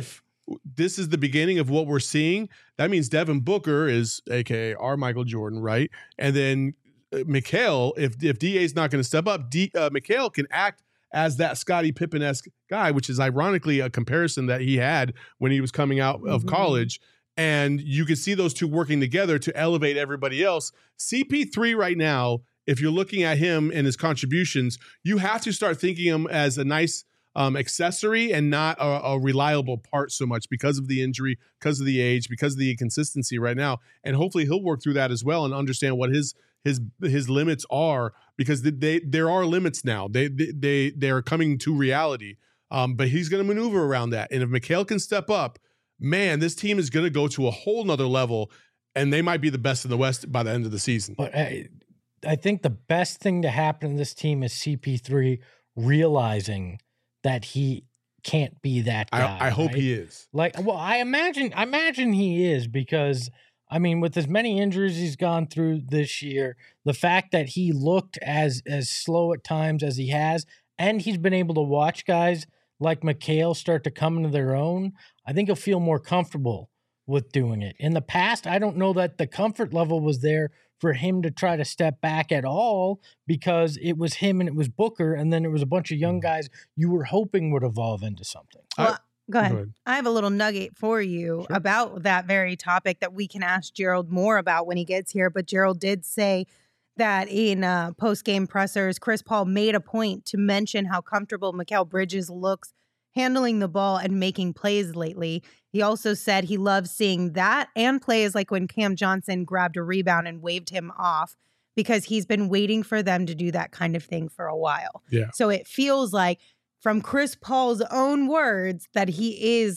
this is the beginning of what we're seeing, that means Devin Booker is AKA our Michael Jordan, right? And then Mikal, if DA is not going to step up, Mikal can act as that Scottie Pippen-esque guy, which is ironically a comparison that he had when he was coming out of college. And you can see those two working together to elevate everybody else. CP3 right now, if you're looking at him and his contributions, you have to start thinking him as a nice accessory and not a reliable part so much because of the injury, because of the age, because of the inconsistency right now. And hopefully he'll work through that as well and understand what his limits are, because there are limits now. They are coming to reality. But he's going to maneuver around that. And if Mikal can step up, man, this team is going to go to a whole nother level, and they might be the best in the West by the end of the season. But I think the best thing to happen in this team is CP3 realizing that he can't be that guy. I hope right? he is. I imagine he is, because I mean, with as many injuries he's gone through this year, the fact that he looked as slow at times as he has, and he's been able to watch guys like Mikal start to come into their own, I think he'll feel more comfortable with doing it. In the past, I don't know that the comfort level was there for him to try to step back at all, because it was him and it was Booker, and then it was a bunch of young guys you were hoping would evolve into something. Well, go ahead. I have a little nugget for you about that very topic that we can ask Gerald more about when he gets here. But Gerald did say that in post-game pressers, Chris Paul made a point to mention how comfortable Mikal Bridges looks handling the ball and making plays lately. He also said he loves seeing that and plays like when Cam Johnson grabbed a rebound and waved him off, because he's been waiting for them to do that kind of thing for a while. Yeah. So it feels like, from Chris Paul's own words, that he is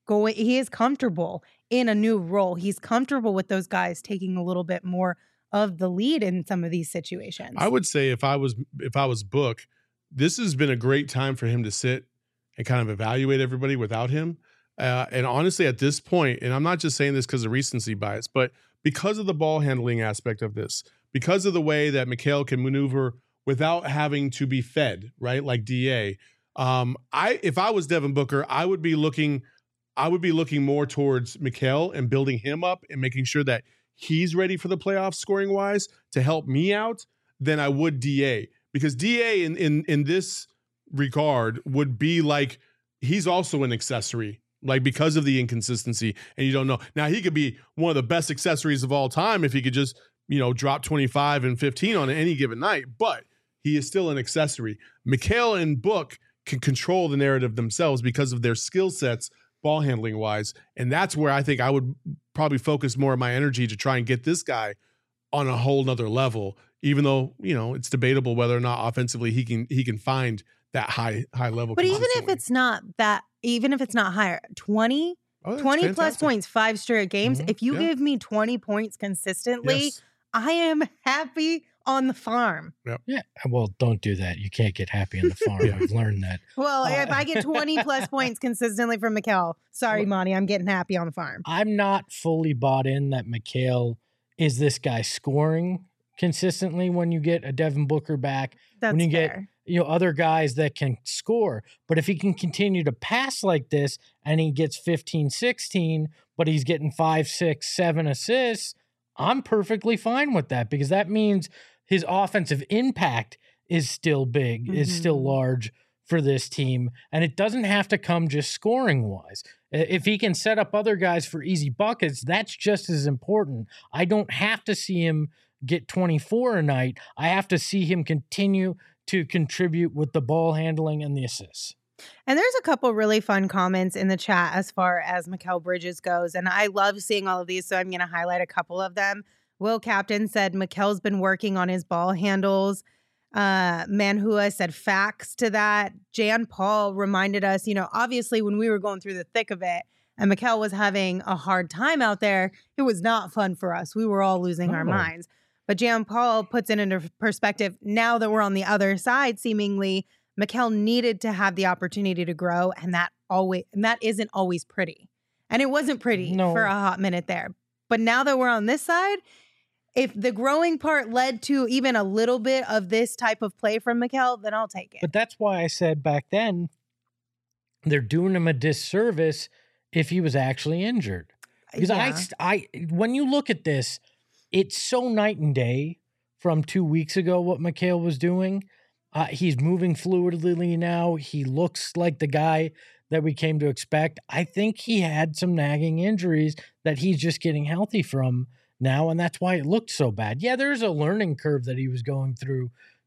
comfortable in a new role. He's comfortable with those guys taking a little bit more of the lead in some of these situations. I would say if I was Book, this has been a great time for him to sit and kind of evaluate everybody without him. And honestly, at this point, and I'm not just saying this because of recency bias, but because of the ball handling aspect of this, because of the way that Mikal can maneuver without having to be fed, right? Like DA. If I was Devin Booker, I would be looking more towards Mikal and building him up and making sure that he's ready for the playoffs scoring wise to help me out than I would DA, because DA in this regard would be like, he's also an accessory, like, because of the inconsistency, and you don't know. Now, he could be one of the best accessories of all time if he could just, drop 25 and 15 on any given night, but he is still an accessory. Mikal and Book can control the narrative themselves because of their skill sets, ball handling wise. And that's where I think I would probably focus more of my energy to try and get this guy on a whole nother level, even though, it's debatable whether or not offensively he can find that high level. But even if it's not higher, 20 plus points, 5 straight games, if you give me 20 points consistently, I am happy on the farm. Yep. Yeah. Well, don't do that. You can't get happy on the farm. I've learned that. Well, if I get 20 plus points consistently from Mikal, sorry, Monty, I'm getting happy on the farm. I'm not fully bought in that Mikal is this guy scoring consistently when you get a Devin Booker back. That's when you fair. get other guys that can score. But if he can continue to pass like this and he gets 15, 16, but he's getting 5, 6, 7 assists, I'm perfectly fine with that, because that means his offensive impact is still big, is still large for this team. And it doesn't have to come just scoring wise. If he can set up other guys for easy buckets, that's just as important. I don't have to see him get 24 a night. I have to see him continue to contribute with the ball handling and the assists. And there's a couple really fun comments in the chat as far as Mikal Bridges goes. And I love seeing all of these, so I'm going to highlight a couple of them. Will Captain said Mikal's been working on his ball handles. Manhua said facts to that. Jan Paul reminded us, obviously when we were going through the thick of it and Mikal was having a hard time out there, it was not fun for us. We were all losing our minds. But Jan Paul puts it into perspective. Now that we're on the other side, seemingly, Mikal needed to have the opportunity to grow, and that isn't always pretty. And it wasn't pretty for a hot minute there. But now that we're on this side, if the growing part led to even a little bit of this type of play from Mikal, then I'll take it. But that's why I said back then, they're doing him a disservice if he was actually injured. Because I when you look at this, it's so night and day from 2 weeks ago what Mikal was doing. He's moving fluidly now. He looks like the guy that we came to expect. I think he had some nagging injuries that he's just getting healthy from now, and that's why it looked so bad. Yeah, there's a learning curve that he was going through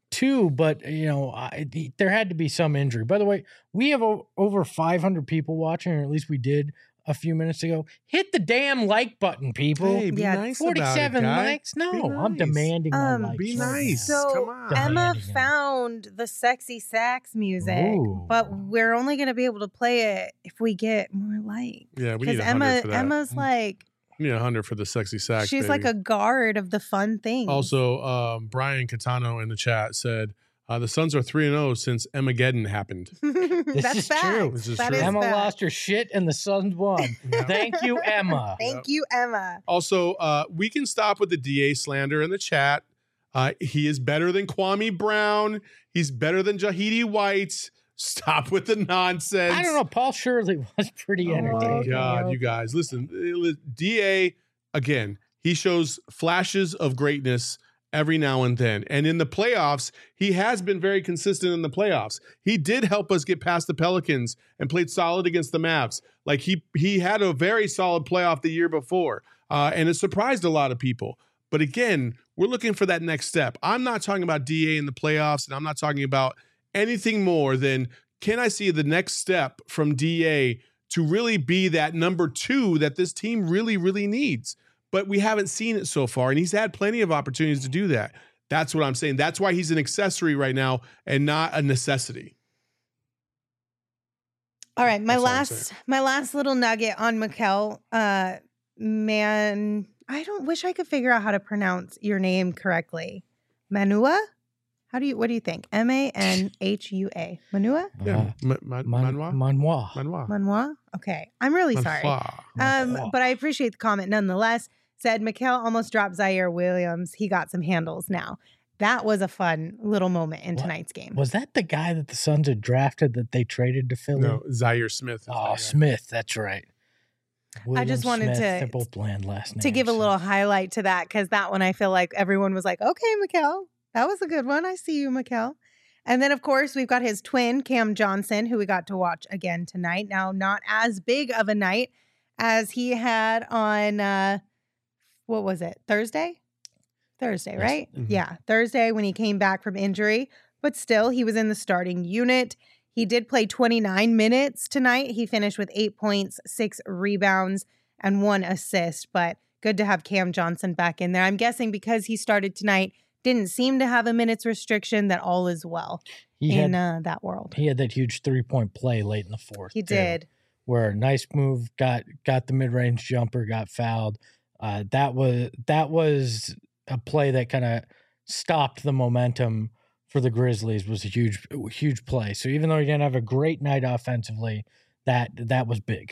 too, but there had to be some injury. By the way, we have over 500 people watching, or at least we did a few minutes ago. Hit the damn like button, people. Hey, be Yeah, nice 47 about it, guy. likes. No, Be I'm nice. demanding more likes. Be right now. nice. So Come on. Emma Demanding it. found the sexy sax music, Ooh. but we're only going to be able to play it if we get more likes. Yeah, we Because need 100 for that. Emma's like, We need 100 for the sexy sax. she's like baby. a guard of the fun things. Also, Brian Catano in the chat said the Suns are 3-0 since Emageddon happened. That's is fact. true. This is That true. is Emma fact. lost her shit and the Suns won. Yeah. Thank you, Emma. Thank you, Emma. Also, we can stop with the DA slander in the chat. He is better than Kwame Brown. He's better than Jahidi White. Stop with the nonsense. I don't know. Paul Shirley was pretty Oh, entertaining. God, you guys, listen. DA, again, he shows flashes of greatness every now and then. And in the playoffs, he has been very consistent in the playoffs. He did help us get past the Pelicans and played solid against the Mavs. Like he had a very solid playoff the year before. And it surprised a lot of people. But again, we're looking for that next step. I'm not talking about DA in the playoffs, and I'm not talking about anything more than, can I see the next step from DA to really be that number 2 that this team really, really needs? But we haven't seen it so far, and he's had plenty of opportunities to do that. That's what I'm saying. That's why he's an accessory right now and not a necessity. All right, my That's all I'm last little nugget on Mikal. Man, I don't wish I could figure out how to pronounce your name correctly. Manua? What do you think? Manhua? Manua? Yeah. Manoir? Manoir. Manoir. Manoir? Okay. I'm really sorry. Manoir. But I appreciate the comment nonetheless. Said Mikal almost dropped Zaire Williams. He got some handles now. That was a fun little moment in What? tonight's game. Was that the guy that the Suns had drafted that they traded to Philly? No, Zaire Smith. is Oh, that guy. Smith. That's right. I just wanted Smith, to- They're both bland last names. To give a little highlight to that, because that one I feel like everyone was like, okay, Mikal, that was a good one. I see you, Mikal. And then, of course, we've got his twin, Cam Johnson, who we got to watch again tonight. Now, not as big of a night as he had on, what was it, Thursday? Thursday, Yes. right? Mhm. Yeah, Thursday when he came back from injury. But still, he was in the starting unit. He did play 29 minutes tonight. He finished with 8 points, 6 rebounds, and 1 assist. But good to have Cam Johnson back in there. I'm guessing because he started tonight, didn't seem to have a minutes restriction, that all is well He in had, that world. he had that huge 3-point play late in the fourth. He too, did. where a nice move, got the mid-range jumper, got fouled. That was a play that kind of stopped the momentum for the Grizzlies. Was a huge play. So even though he didn't have a great night offensively, that was big.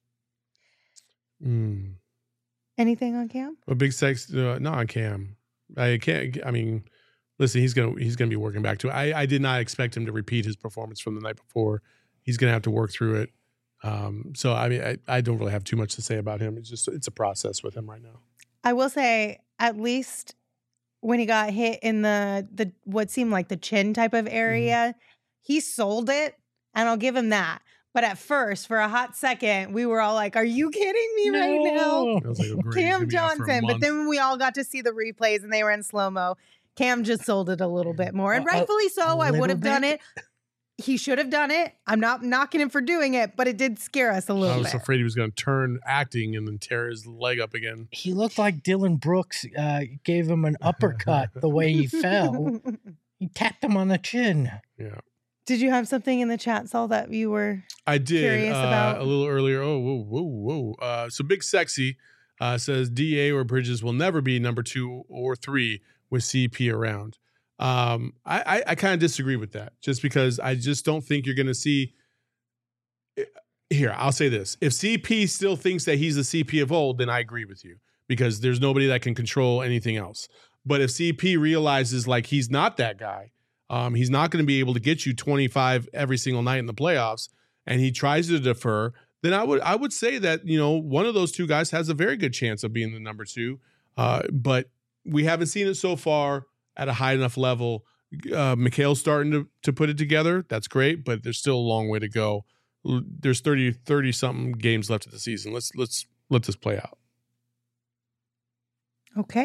Anything on Cam? A big sex, not on Cam. I can't. I mean, listen, he's gonna be working back to it. I did not expect him to repeat his performance from the night before. He's gonna have to work through it. So I mean, I don't really have too much to say about him. It's a process with him right now. I will say, at least when he got hit in the what seemed like the chin type of area, he sold it, and I'll give him that. But at first, for a hot second, we were all like, "Are you kidding me right now?" It was like, oh, great, he's Cam gonna be out for a Johnson. But month. then when we all got to see the replays and they were in slow mo, Cam just sold it a little bit more, and A rightfully so. I would little have done bit? it. He should have done it. I'm not knocking him for doing it, but it did scare us a I little was bit. afraid he was going to turn acting and then tear his leg up again. He looked like Dylan Brooks gave him an uppercut the way he fell. He tapped him on the chin. Yeah, Did you have something in the chat, Saul, that you were? I did Curious about- a little earlier. Oh, whoa. So Big Sexy says DA or Bridges will never be number 2 or 3 with CP around. I kind of disagree with that, just because I just don't think you're going to see. Here, I'll say this: if CP still thinks that he's the CP of old, then I agree with you, because there's nobody that can control anything else. But if CP realizes like he's not that guy, he's not going to be able to get you 25 every single night in the playoffs, and he tries to defer, then I would say that, you know, one of those two guys has a very good chance of being the number 2. But we haven't seen it so far at a high enough level. Mikhail's starting to put it together. That's great, but there's still a long way to go. There's 30 something games left of the season. Let's let this play out. Okay.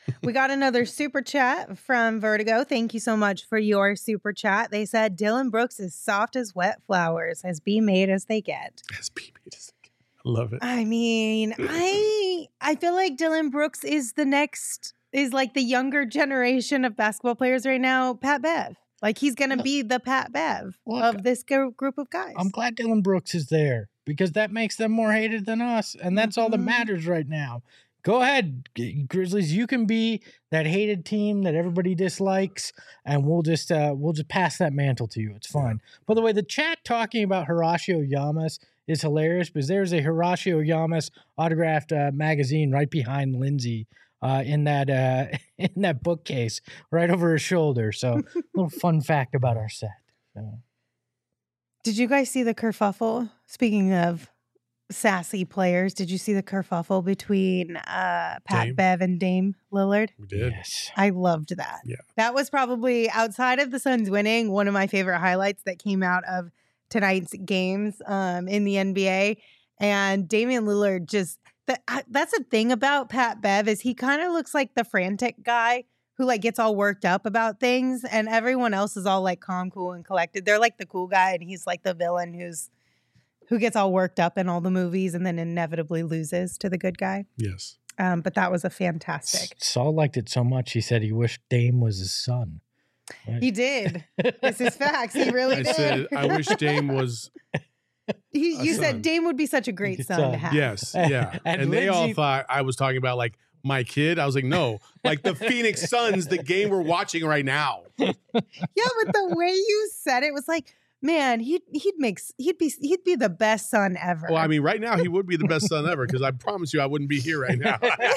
We got another super chat from Vertigo. Thank you so much for your super chat. They said Dylan Brooks is soft as wet flowers, as be made as they get. As be made as they get. I love it. I mean, I feel like Dylan Brooks is like the younger generation of basketball players right now. Pat Bev, like he's gonna be the Pat Bev of this group of guys. I'm glad Dylan Brooks is there because that makes them more hated than us, and that's all that matters right now. Go ahead, Grizzlies. You can be that hated team that everybody dislikes, and we'll just pass that mantle to you. It's fine. By the way, the chat talking about Horacio Llamas is hilarious because there's a Horacio Llamas autographed magazine right behind Lindsay in that bookcase right over her shoulder. So, a little fun fact about our set. So. Did you guys see the kerfuffle? Speaking of sassy players, did you see the kerfuffle between Pat Bev and Dame Lillard? We did. Yes. I loved that. Yeah. That was probably, outside of the Suns winning, one of my favorite highlights that came out of tonight's games in the NBA. And Damian Lillard that's the thing about Pat Bev is he kind of looks like the frantic guy who like gets all worked up about things, and everyone else is all like calm, cool, and collected. They're like the cool guy, and he's like the villain who gets all worked up in all the movies and then inevitably loses to the good guy. Yes. But that was a fantastic. Saul liked it so much, he said he wished Dame was his son. Right? He did. This is facts. He really I did. said, I wish Dame was. You son. said Dame would be such a great Good son son. to have. Yes. Yeah. and they all Lindsay- thought I was talking about like my kid. I was like, no, like the Phoenix Suns, the game we're watching right now. Yeah, but the way you said it was like, man, he'd be the best son ever. Well, I mean, right now he would be the best son ever because I promise you I wouldn't be here right now.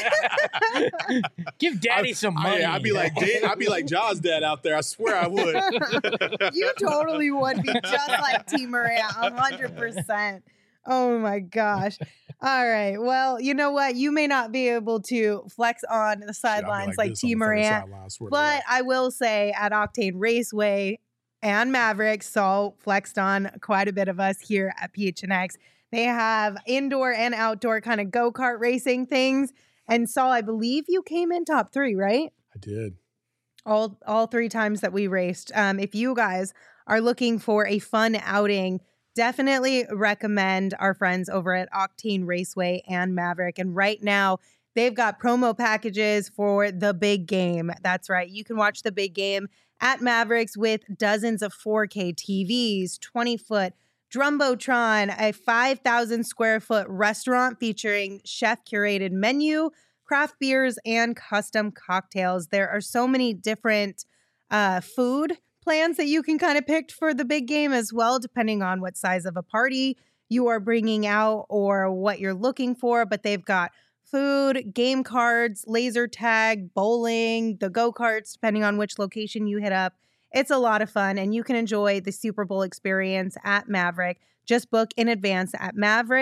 Give Daddy some money. I'd be like Jaws' dad out there. I swear I would. You totally would be just like T. Morant, 100%. Oh my gosh. All right. Well, you know what? You may not be able to flex on the sidelines like T. Morant, but I will say at Octane Raceway and Mavericks, Saul flexed on quite a bit of us here at PHNX. They have indoor and outdoor kind of go-kart racing things. And Saul, I believe you came in top 3, right? I did. All 3 times that we raced. If you guys are looking for a fun outing, definitely recommend our friends over at Octane Raceway and Maverick. And right now, they've got promo packages for the big game. That's right. You can watch the big game at Mavericks with dozens of 4K TVs, 20-foot Drumbotron, a 5,000 square foot restaurant featuring chef-curated menu, craft beers, and custom cocktails. There are so many different food plans that you can kind of pick for the big game as well, depending on what size of a party you are bringing out or what you're looking for. But they've got food, game cards, laser tag, bowling, the go-karts, depending on which location you hit up. It's a lot of fun, and you can enjoy the Super Bowl experience at Maverick. Just book in advance at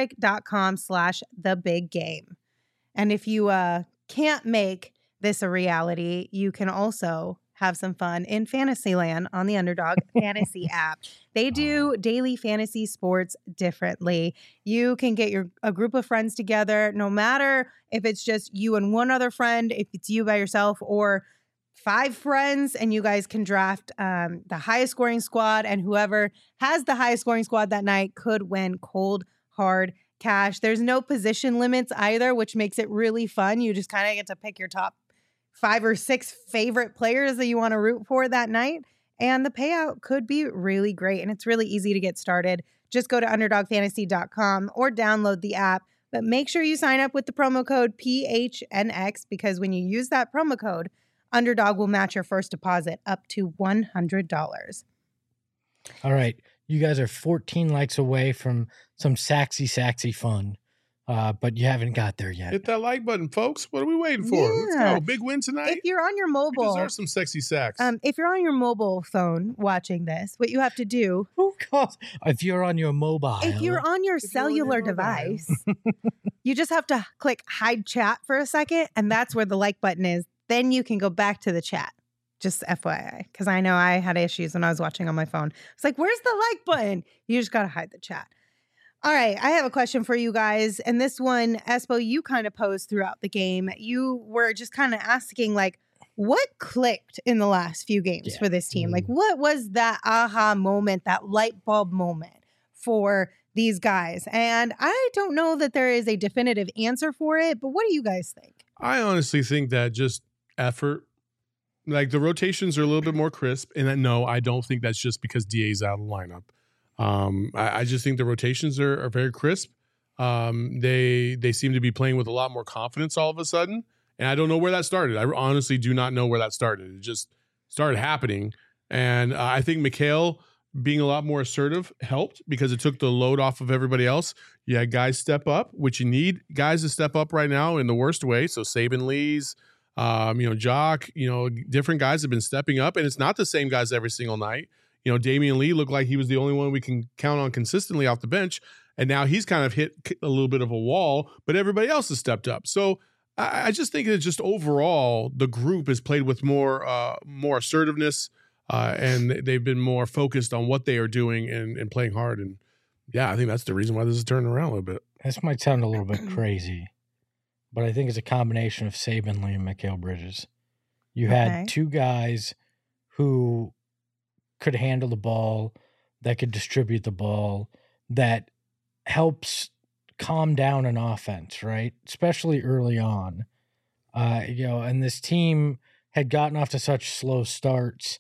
maverick.com/thebiggame. And if you can't make this a reality, you can also have some fun in Fantasyland on the Underdog Fantasy app. They do daily fantasy sports differently. You can get a group of friends together, no matter if it's just you and one other friend, if it's you by yourself, or 5 friends, and you guys can draft the highest scoring squad, and whoever has the highest scoring squad that night could win cold, hard cash. There's no position limits either, which makes it really fun. You just kind of get to pick your top 5 or 6 favorite players that you want to root for that night. And the payout could be really great. And it's really easy to get started. Just go to underdogfantasy.com or download the app. But make sure you sign up with the promo code PHNX, because when you use that promo code, Underdog will match your first deposit up to $100. All right. You guys are 14 likes away from some saxy fun. But you haven't got there yet. Hit that like button, folks. What are we waiting for? Let's Yeah. go. Big win tonight. If you're on your We mobile, deserve some sexy sacks. if you're on your mobile phone watching this, what you have to do, Who calls? If you're on your mobile. if you're on your If you're on your cellular mobile. device, you just have to click hide chat for a second, and that's where the like button is. Then you can go back to the chat. Just FYI, because I know I had issues when I was watching on my phone. It's like, where's the like button? You just got to hide the chat. All right, I have a question for you guys. And this one, Espo, you kind of posed throughout the game. You were just kind of asking, like, what clicked in the last few games for this team? Like, what was that aha moment, that light bulb moment for these guys? And I don't know that there is a definitive answer for it, but what do you guys think? I honestly think that just effort, like the rotations are a little bit more crisp. And no, I don't think that's just because DA's out of the lineup. I just think the rotations are very crisp. They seem to be playing with a lot more confidence all of a sudden. And I don't know where that started. I honestly do not know where that started. It just started happening. And I think Mikal being a lot more assertive helped because it took the load off of everybody else. You had guys step up, which you need guys to step up right now in the worst way. So Saban Lee's, Jock, different guys have been stepping up. And it's not the same guys every single night. Damian Lee looked like he was the only one we can count on consistently off the bench. And now he's kind of hit a little bit of a wall, but everybody else has stepped up. So I just think that just overall, the group has played with more assertiveness, and they've been more focused on what they are doing and playing hard. And yeah, I think that's the reason why this is turning around a little bit. This might sound a little bit crazy, but I think it's a combination of Saban Lee and Mikal Bridges. You had two guys who could handle the ball, that could distribute the ball, that helps calm down an offense, right? Especially early on. And this team had gotten off to such slow starts.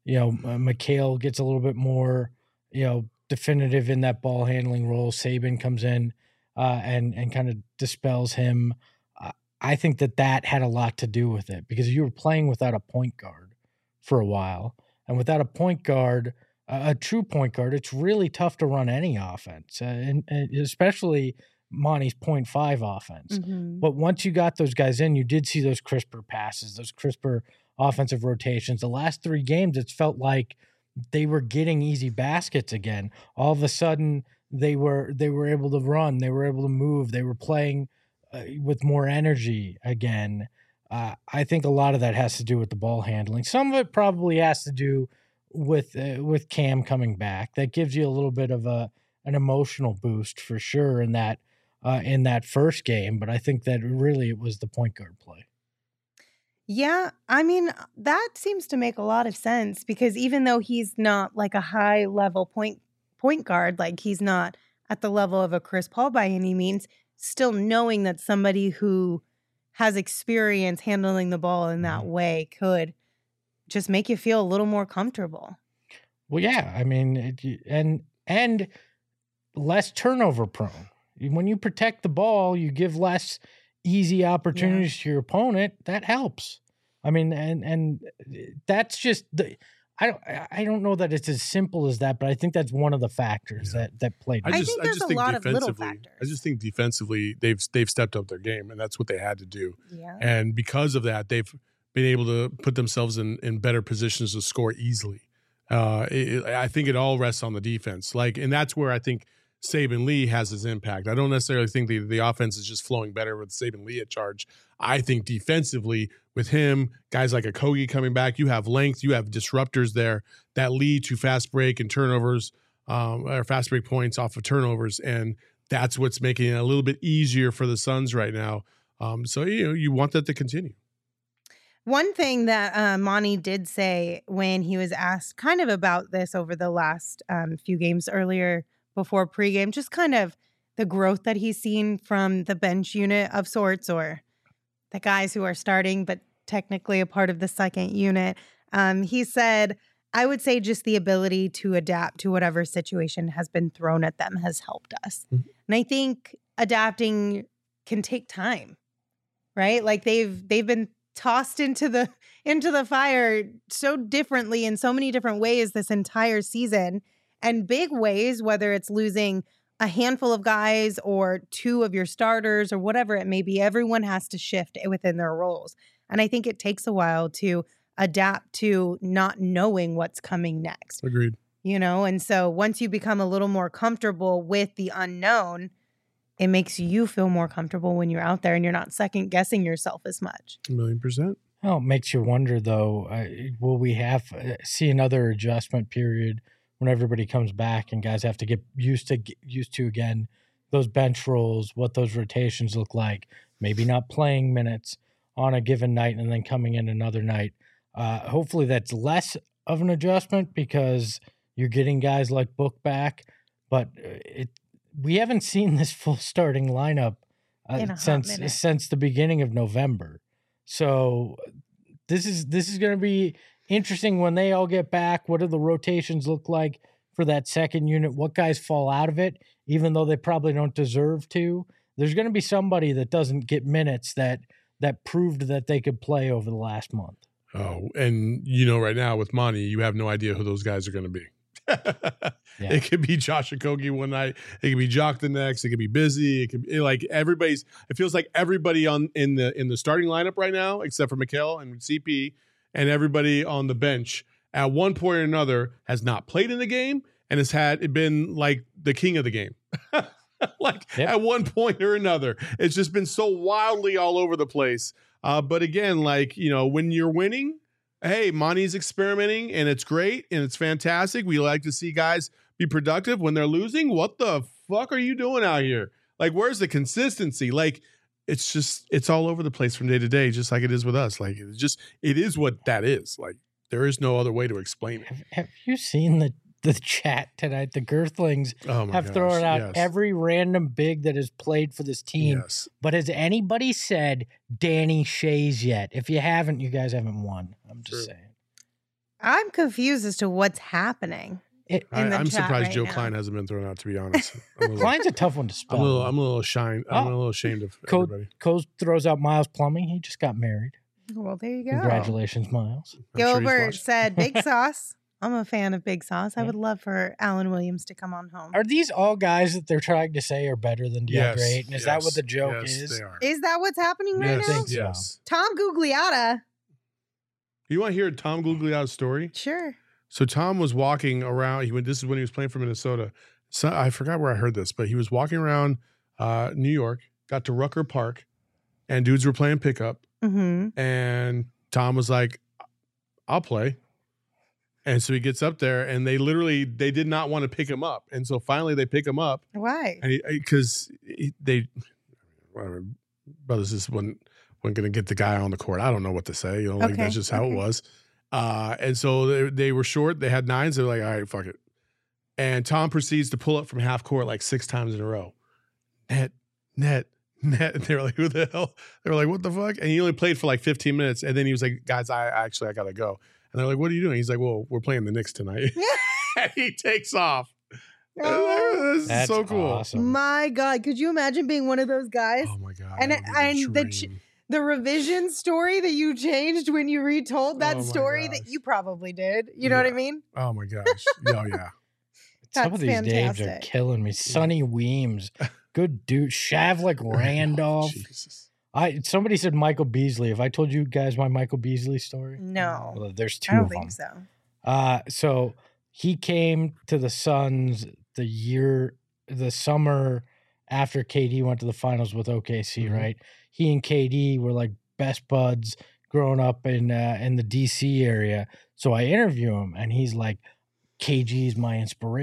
Mikal gets a little bit more, definitive in that ball handling role. Saban comes in and kind of dispels him. I think that had a lot to do with it because you were playing without a point guard for a while. And without a point guard, a true point guard, it's really tough to run any offense, and especially Monty's 0.5 offense. Mm-hmm. But once you got those guys in, you did see those crisper passes, those crisper offensive rotations. The last 3 games, it's felt like they were getting easy baskets again. All of a sudden, they were able to run, they were able to move, they were playing with more energy again. I think a lot of that has to do with the ball handling. Some of it probably has to do with Cam coming back. That gives you a little bit of an emotional boost for sure in that first game. But I think that really it was the point guard play. Yeah, I mean, that seems to make a lot of sense because even though he's not like a high level point guard, like he's not at the level of a Chris Paul by any means, still knowing that somebody who has experience handling the ball in that way could just make you feel a little more comfortable. Well, yeah, I mean, and less turnover prone. When you protect the ball, you give less easy opportunities to your opponent. That helps. I mean, and that's just I don't know that it's as simple as that, but I think that's one of the factors that played. I think there's a lot of little factors. I just think defensively they've stepped up their game, and that's what they had to do. Yeah. And because of that, they've been able to put themselves in better positions to score easily. I think it all rests on the defense. And that's where I think Saban Lee has his impact. I don't necessarily think the offense is just flowing better with Saban Lee at charge. I think defensively with him, guys like Okogie coming back, you have length, you have disruptors there that lead to fast break and turnovers, or fast break points off of turnovers. And that's what's making it a little bit easier for the Suns right now. So you want that to continue. One thing that Monty did say when he was asked kind of about this over the last few games earlier before pregame, just kind of the growth that he's seen from the bench unit of sorts, or the guys who are starting but technically a part of the second unit. He said, I would say just the ability to adapt to whatever situation has been thrown at them has helped us. Mm-hmm. And I think adapting can take time, right? Like they've been tossed into the fire so differently in so many different ways this entire season, and big ways, whether it's losing a handful of guys or 2 of your starters or whatever it may be. Everyone has to shift within their roles. And I think it takes a while to adapt to not knowing what's coming next. Agreed. And so once you become a little more comfortable with the unknown, it makes you feel more comfortable when you're out there and you're not second guessing yourself as much. 1,000,000%. Well, it makes you wonder, though, will we see another adjustment period when everybody comes back and guys have to get used to again those bench roles, what those rotations look like, maybe not playing minutes on a given night and then coming in another night. Hopefully that's less of an adjustment because you're getting guys like Book back, but we haven't seen this full starting lineup since the beginning of November. So this is going to be interesting when they all get back. What do the rotations look like for that second unit? What guys fall out of it, even though they probably don't deserve to? There's going to be somebody that doesn't get minutes that proved that they could play over the last month. Oh, and right now with Monty, you have no idea who those guys are going to be. Yeah. It could be Josh Okogie one night. It could be Jock the next. It could be Busy. It could be like everybody's. It feels like everybody in the starting lineup right now, except for Mikal and CP, and everybody on the bench at one point or another has not played in the game and has been like the king of the game. At one point or another, it's just been so wildly all over the place. But again, when you're winning, hey, Monty's experimenting and it's great and it's fantastic. We like to see guys be productive. When they're losing, what the fuck are you doing out here? Like, where's the consistency? Like, it's all over the place from day to day, just like it is with us. Like, it is what that is. Like, there is no other way to explain it. Have you seen the chat tonight? The Girthlings have thrown out every random big that has played for this team. Yes. But has anybody said Danny Shays yet? If you haven't, you guys haven't won. I'm just saying. I'm confused as to what's happening. I'm surprised Joe Klein hasn't been thrown out, to be honest. Klein's a tough one to spell. I'm a little ashamed of everybody. Coase throws out Miles Plumbing. He just got married. Well, there you go. Congratulations, Miles. Gilbert said Big Sauce. I'm a fan of Big Sauce. I would love for Alan Williams to come on home. Are these all guys that they're trying to say are better than DeAndre Ayton? Is that what the joke is? They are. Is that what's happening right now? I think so. Yes. Tom Gugliotta. You want to hear Tom Gugliotta's story? Sure. So Tom was walking around. This is when he was playing for Minnesota. So I forgot where I heard this, but he was walking around New York, got to Rucker Park, and dudes were playing pickup. Mm-hmm. And Tom was like, "I'll play." And so he gets up there, and they did not want to pick him up. And so finally they pick him up. Why? Because brothers just wasn't going to get the guy on the court. I don't know what to say. That's just how it was. And so they were short. They had nines. They're like, all right, fuck it. And Tom proceeds to pull up from half court like 6 times in a row. Net. And they were like, who the hell? They were like, what the fuck? And he only played for like 15 minutes. And then he was like, guys, I got to go. And they're like, what are you doing? He's like, well, we're playing the Knicks tonight. And he takes off. This is so cool. Awesome. My God. Could you imagine being one of those guys? Oh, my God. And the revision story that you changed when you retold that story that you probably did. You know what I mean? Oh, my gosh. Oh, yeah. Some of these names are killing me. Sonny Weems. Good dude. Shavlik Randolph. Jesus. Somebody said Michael Beasley. Have I told you guys my Michael Beasley story? No. Well, there's 2 I don't of them. think so. So he came to the Suns the summer after KD went to the finals with OKC, Mm-hmm. right? He and KD were like best buds growing up in the DC area. So I interview him, and he's like, KD's my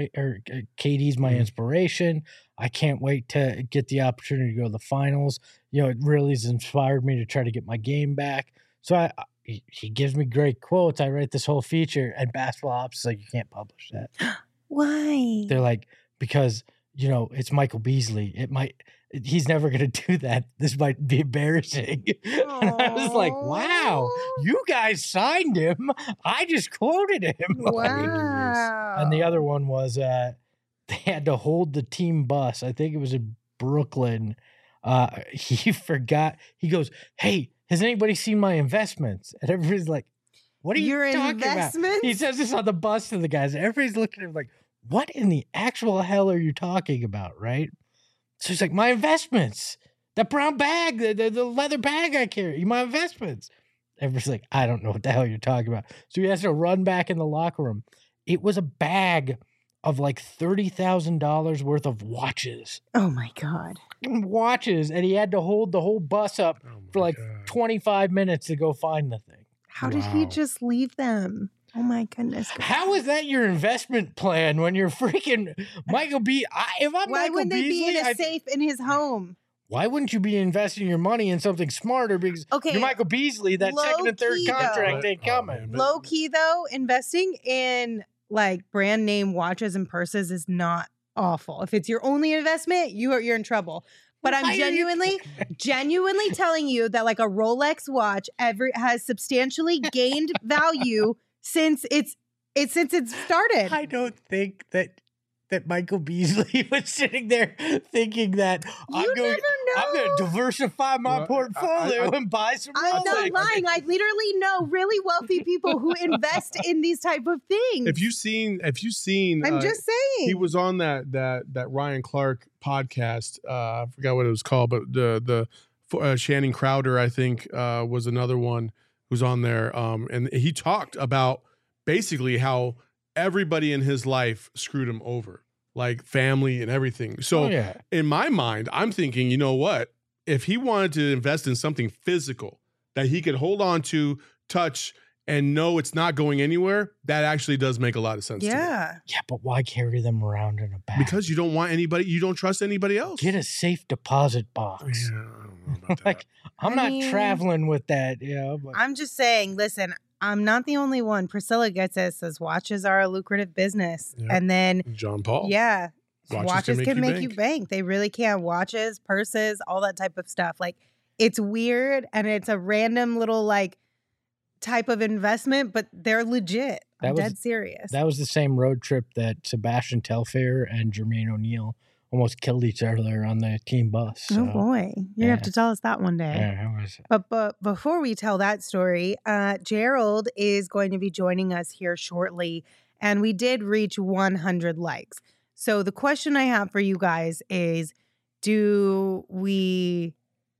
inspiration. I can't wait to get the opportunity to go to the finals. It really has inspired me to try to get my game back. So he gives me great quotes. I write this whole feature, and Basketball Ops is like, you can't publish that. Why? They're like, because it's Michael Beasley. He's never going to do that. This might be embarrassing. And I was like, wow, you guys signed him. I just quoted him. Wow. And the other one was they had to hold the team bus. I think it was in Brooklyn. He forgot. He goes, hey, has anybody seen my investments? And everybody's like, what are you talking about? He says this on the bus to the guys. Everybody's looking at him like, what in the actual hell are you talking about, right? So he's like, my investments, that brown bag, the leather bag I carry, my investments. Everybody's like, I don't know what the hell you're talking about. So he has to run back in the locker room. It was a bag of like $30,000 worth of watches. Oh my God. Watches. And he had to hold the whole bus up for like 25 minutes to go find the thing. How did he just leave them? Oh my goodness. How is that your investment plan when you're freaking Michael B? If I'm Why Michael wouldn't they be Beasley, in a safe in his home? why wouldn't you be investing your money in something smarter? Because Okay, you're Michael Beasley. That second and third low-key, though. contract ain't Oh, coming. man, but- Low key though, investing in like brand name watches and purses is not awful. If it's your only investment, you're in trouble. But Why I'm are you- genuinely telling you that like a Rolex watch has substantially gained value since it's started. I don't think that Michael Beasley was sitting there thinking that I'm going to diversify my Well, portfolio and buy some I'm not Rolex. lying. I literally know really wealthy people who invest in these type of things. If you've seen, I'm just saying. he was on that Ryan Clark podcast. I forgot what it was called, but the Shannon Crowder, I think, was another one who's on there. And he talked about basically how everybody in his life screwed him over, like family and everything. So Oh, yeah. in my mind, I'm thinking, you know what? If he wanted to invest in something physical that he could hold on to, touch, and know it's not going anywhere, that actually does make a lot of sense to me. yeah. Yeah, but why carry them around in a bag? Because you don't want anybody, you don't trust anybody else. Get a safe deposit box. Yeah, I don't know about that. Like, I'm I not mean- traveling with that, but I'm just saying, listen, I'm not the only one. Priscilla gets it, says watches are a lucrative business. Yeah. And then, John Paul. yeah, Watches watches can make you bank. They really can. Watches, purses, all that type of stuff. Like, it's weird and it's a random little, like, type of investment, but they're legit. That I'm was- dead serious. that was the same road trip that Sebastian Telfair and Jermaine O'Neal almost killed each other on the team bus. Oh, So, boy. You're going to have yeah. to tell us that one day. yeah, that was But before we tell that story, Gerald is going to be joining us here shortly, and we did reach 100 likes. So the question I have for you guys is, do we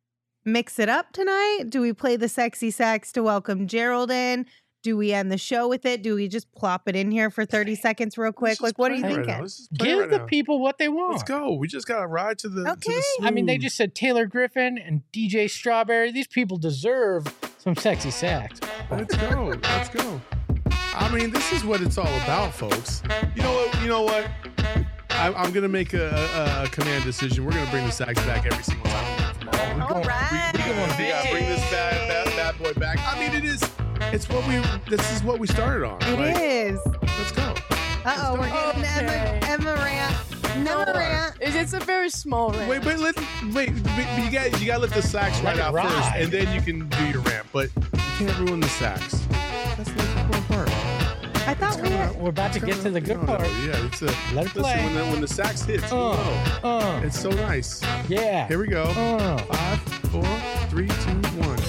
mix it up tonight? Do we play the sexy sax to welcome Gerald in? Do we end the show with it? Do we just plop it in here for 30 seconds real quick? Like, what are you Right thinking? now. Let's just play give right the now. people what they want. Let's go. We just got to ride to the. Okay. I mean, they smooth. just said Taylor Griffin and DJ Strawberry. These people deserve some sexy sax. Let's go. Let's go. I mean, this is what it's all about, folks. You know what? You know what? I'm gonna make a command decision. We're gonna bring the sax back every single time. All right. We gotta bring this bad boy back. I mean, it is. It's what we. This is what we started on. It Like, is. Let's go. Uh-oh, we're getting Okay. Emma rant. Emma rant. It's a very small rant. Wait, but you gotta let the sax Let right it out first, ride. and then you can do your rant. But you can't ruin the sax. That's the most important part. I thought we had. We're about to get to the good part. Yeah, it's a. Let it Listen, play. when the sax hits, you know, it's so nice. Yeah. Here we go. 5, 4, 3, 2, 1.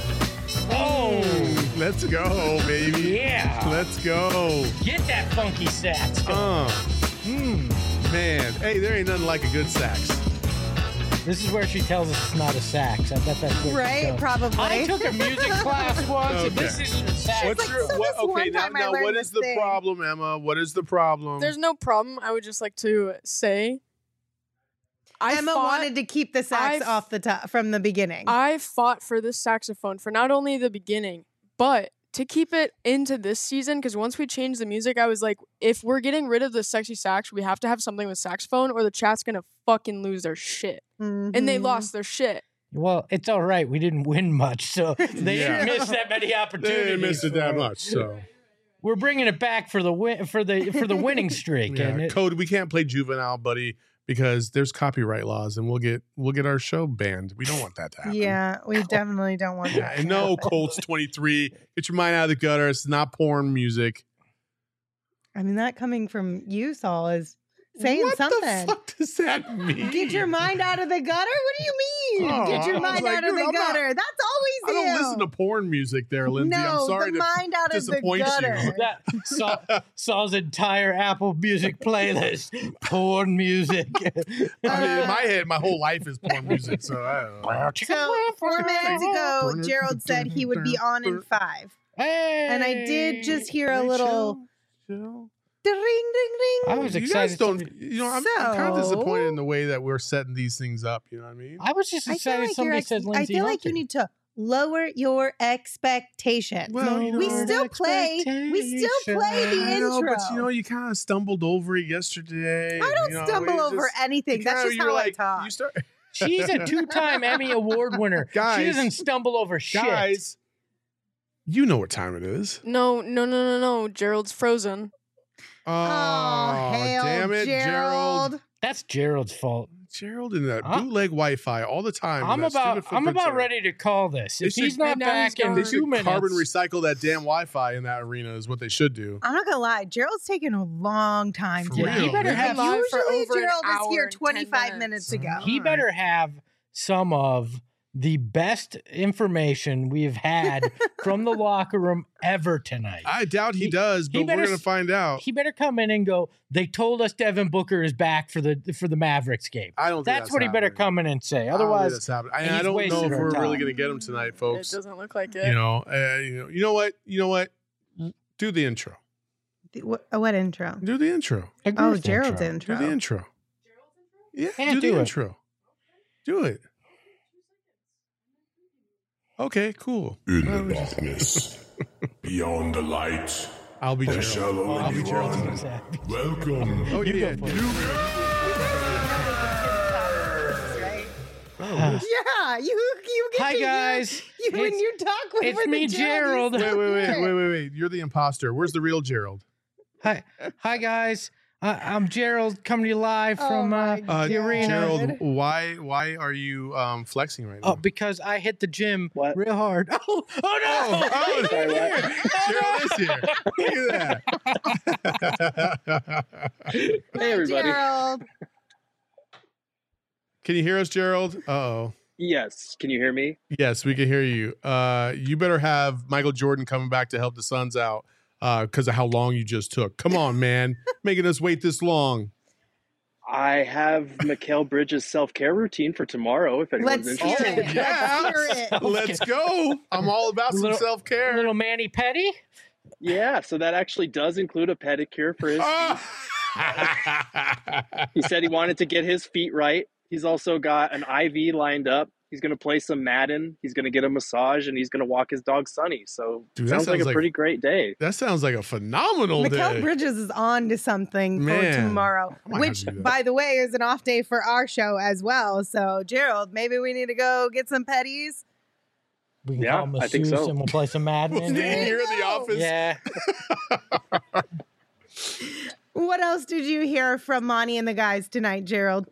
Oh, Let's go, baby. yeah. Let's go. Get that funky sax going. Man. Hey, there ain't nothing like a good sax. This is where she tells us it's not a sax. I bet that's where Right, she goes. probably. I took a music class once, and this Okay. isn't a sax. What's like, your so what? this one Okay, now, time I now learned what this is the thing. problem, Emma? What is the problem? There's no problem. I would just like to say, Emma wanted to keep the sax I've- off the top from the beginning. I fought for this saxophone for not only the beginning, but to keep it into this season. Because once we changed the music, I was like, if we're getting rid of the sexy sax, we have to have something with saxophone, or the chat's gonna fucking lose their shit. And they Mhm. lost their shit. Well, it's all right. We didn't win much, so they Yeah. didn't miss that many they opportunities. didn't miss it that for much. So We're bringing it back for the win for the winning streak. yeah, And it, Code, we can't play Juvenile, buddy, because there's copyright laws, and we'll get our show banned. We don't want that to happen. Yeah, we definitely don't want Yeah, that. and no, Colts 23. Get your mind out of the gutter. It's not porn music. I mean, that coming from you, Saul, is saying what something. the fuck does that mean? Get your mind out of the gutter? What do you mean? Oh, Get your I was mind like, out of dude, the I'm not- gutter. That's I always don't you. listen to porn music there, Lindsay. No, I'm sorry the to mind out of the disappoint you. gutter. that Saul's entire Apple Music playlist, porn music. I mean, in my head, my whole life is porn music, so I don't know. So 4 minutes ago, Gerald said he would be on in 5. Hey, And I did just hear a Wait, little chill. ding, ding, I ding. was You guys excited. don't. somebody- You know, I'm kind of So- disappointed in the way that we're setting these things up. You know what I mean? I was just I feel excited like somebody said I Lindsay feel like Hunter. you need to lower your expectations. Well, we still play the I know, intro. but you kind of stumbled over it yesterday. I don't stumble over anything. That's just how I talk. She's a 2-time Emmy Award winner. Guys, she doesn't stumble over shit. Guys, you know what time it is. No. Gerald's frozen. Oh, hail damn it, Gerald. That's Gerald's fault. Gerald and that bootleg Wi-Fi all the time. I'm about ready to call this. If he's not back in 2 minutes, carbon recycle that damn Wi-Fi in that arena is what they should do. I'm not gonna lie, Gerald's taking a long time For today. real. He better have Usually Gerald is here and 10 25 minutes ago. He better have some of the best information we've had from the locker room ever tonight. I doubt he does, but we're gonna find out. He better come in and go, they told us Devin Booker is back for the Mavericks game. I don't think that's what he better come in and say. Otherwise, I don't know if we're really gonna get him tonight, folks. It doesn't look like it. You know what? Do the intro. What intro? Do the intro. Gerald's intro. Do the intro. Yeah, Can't do the do it. intro. Do it. Okay, cool. In the darkness, beyond the light, I'll be there Gerald. shall only I'll be be Gerald one. tonight. Welcome. Oh yeah. Yeah, you get Hi to guys. hear you when you talk with It's me, Gerald. Wait. You're the imposter. Where's the real Gerald? Hi guys. I'm Gerald coming to you live from the arena. Gerald, why are you flexing right now? Oh, because I hit the gym real hard. Oh no! Gerald is here. Look at that. Hey, everybody. Gerald. Can you hear us, Gerald? Uh-oh. Yes. Can you hear me? Yes, we can hear you. You better have Michael Jordan coming back to help the Suns out because of how long you just took. Come on, man. Making us wait this long. I have Mikal Bridges' self-care routine for tomorrow, if anyone's Let's hear interested. it. Yeah. Let's hear it. Let's go. I'm all about some self-care. Little Manny Petty. Yeah, so that actually does include a pedicure for his feet. He said he wanted to get his feet right. He's also got an IV lined up. He's going to play some Madden. He's going to get a massage, and he's going to walk his dog Sunny. So Dude, sounds like a pretty great day. That sounds like a phenomenal Mikal day. Bridges is on to something Man, for tomorrow, I might have which, to do that. by the way, is an off day for our show as well. So, Gerald, maybe we need to go get some petties. We can Yeah, call I think masseuse so. and we'll play some Madden. in Did you there. hear the office? Yeah. What else did you hear from Monty and the guys tonight, Gerald?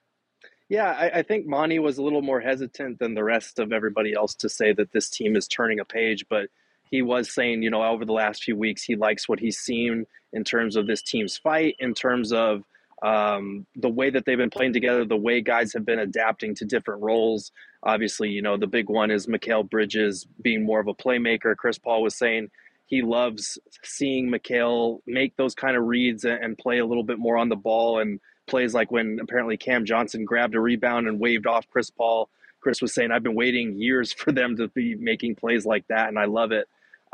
Yeah, I think Monty was a little more hesitant than the rest of everybody else to say that this team is turning a page, but he was saying, over the last few weeks, he likes what he's seen in terms of this team's fight, in terms of the way that they've been playing together, the way guys have been adapting to different roles. Obviously, the big one is Mikal Bridges being more of a playmaker. Chris Paul was saying he loves seeing Mikal make those kind of reads and play a little bit more on the ball, and plays like when apparently Cam Johnson grabbed a rebound and waved off Chris Paul. Chris was saying, I've been waiting years for them to be making plays like that, and I love it.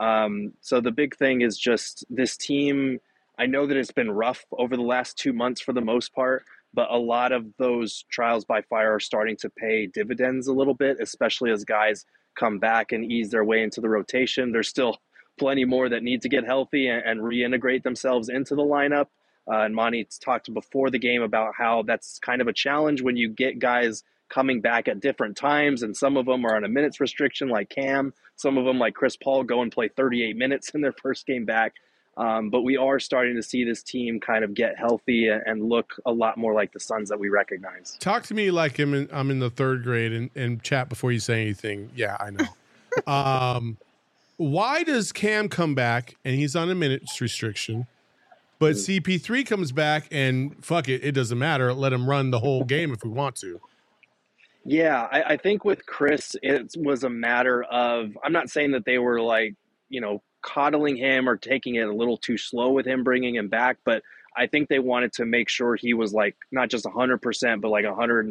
So the big thing is just this team. I know that it's been rough over the last 2 months for the most part, but a lot of those trials by fire are starting to pay dividends a little bit, especially as guys come back and ease their way into the rotation. There's still plenty more that need to get healthy and reintegrate themselves into the lineup. And Monty talked before the game about how that's kind of a challenge when you get guys coming back at different times, and some of them are on a minutes restriction like Cam. Some of them, like Chris Paul, go and play 38 minutes in their first game back. But we are starting to see this team kind of get healthy and look a lot more like the Suns that we recognize. Talk to me like I'm in the third grade and chat before you say anything. Yeah, I know. Why does Cam come back and he's on a minutes restriction, but CP3 comes back and fuck it, it doesn't matter. Let him run the whole game if we want to. Yeah, I think with Chris, it was a matter of, I'm not saying that they were like, coddling him or taking it a little too slow with him bringing him back, but I think they wanted to make sure he was like not just 100%, but like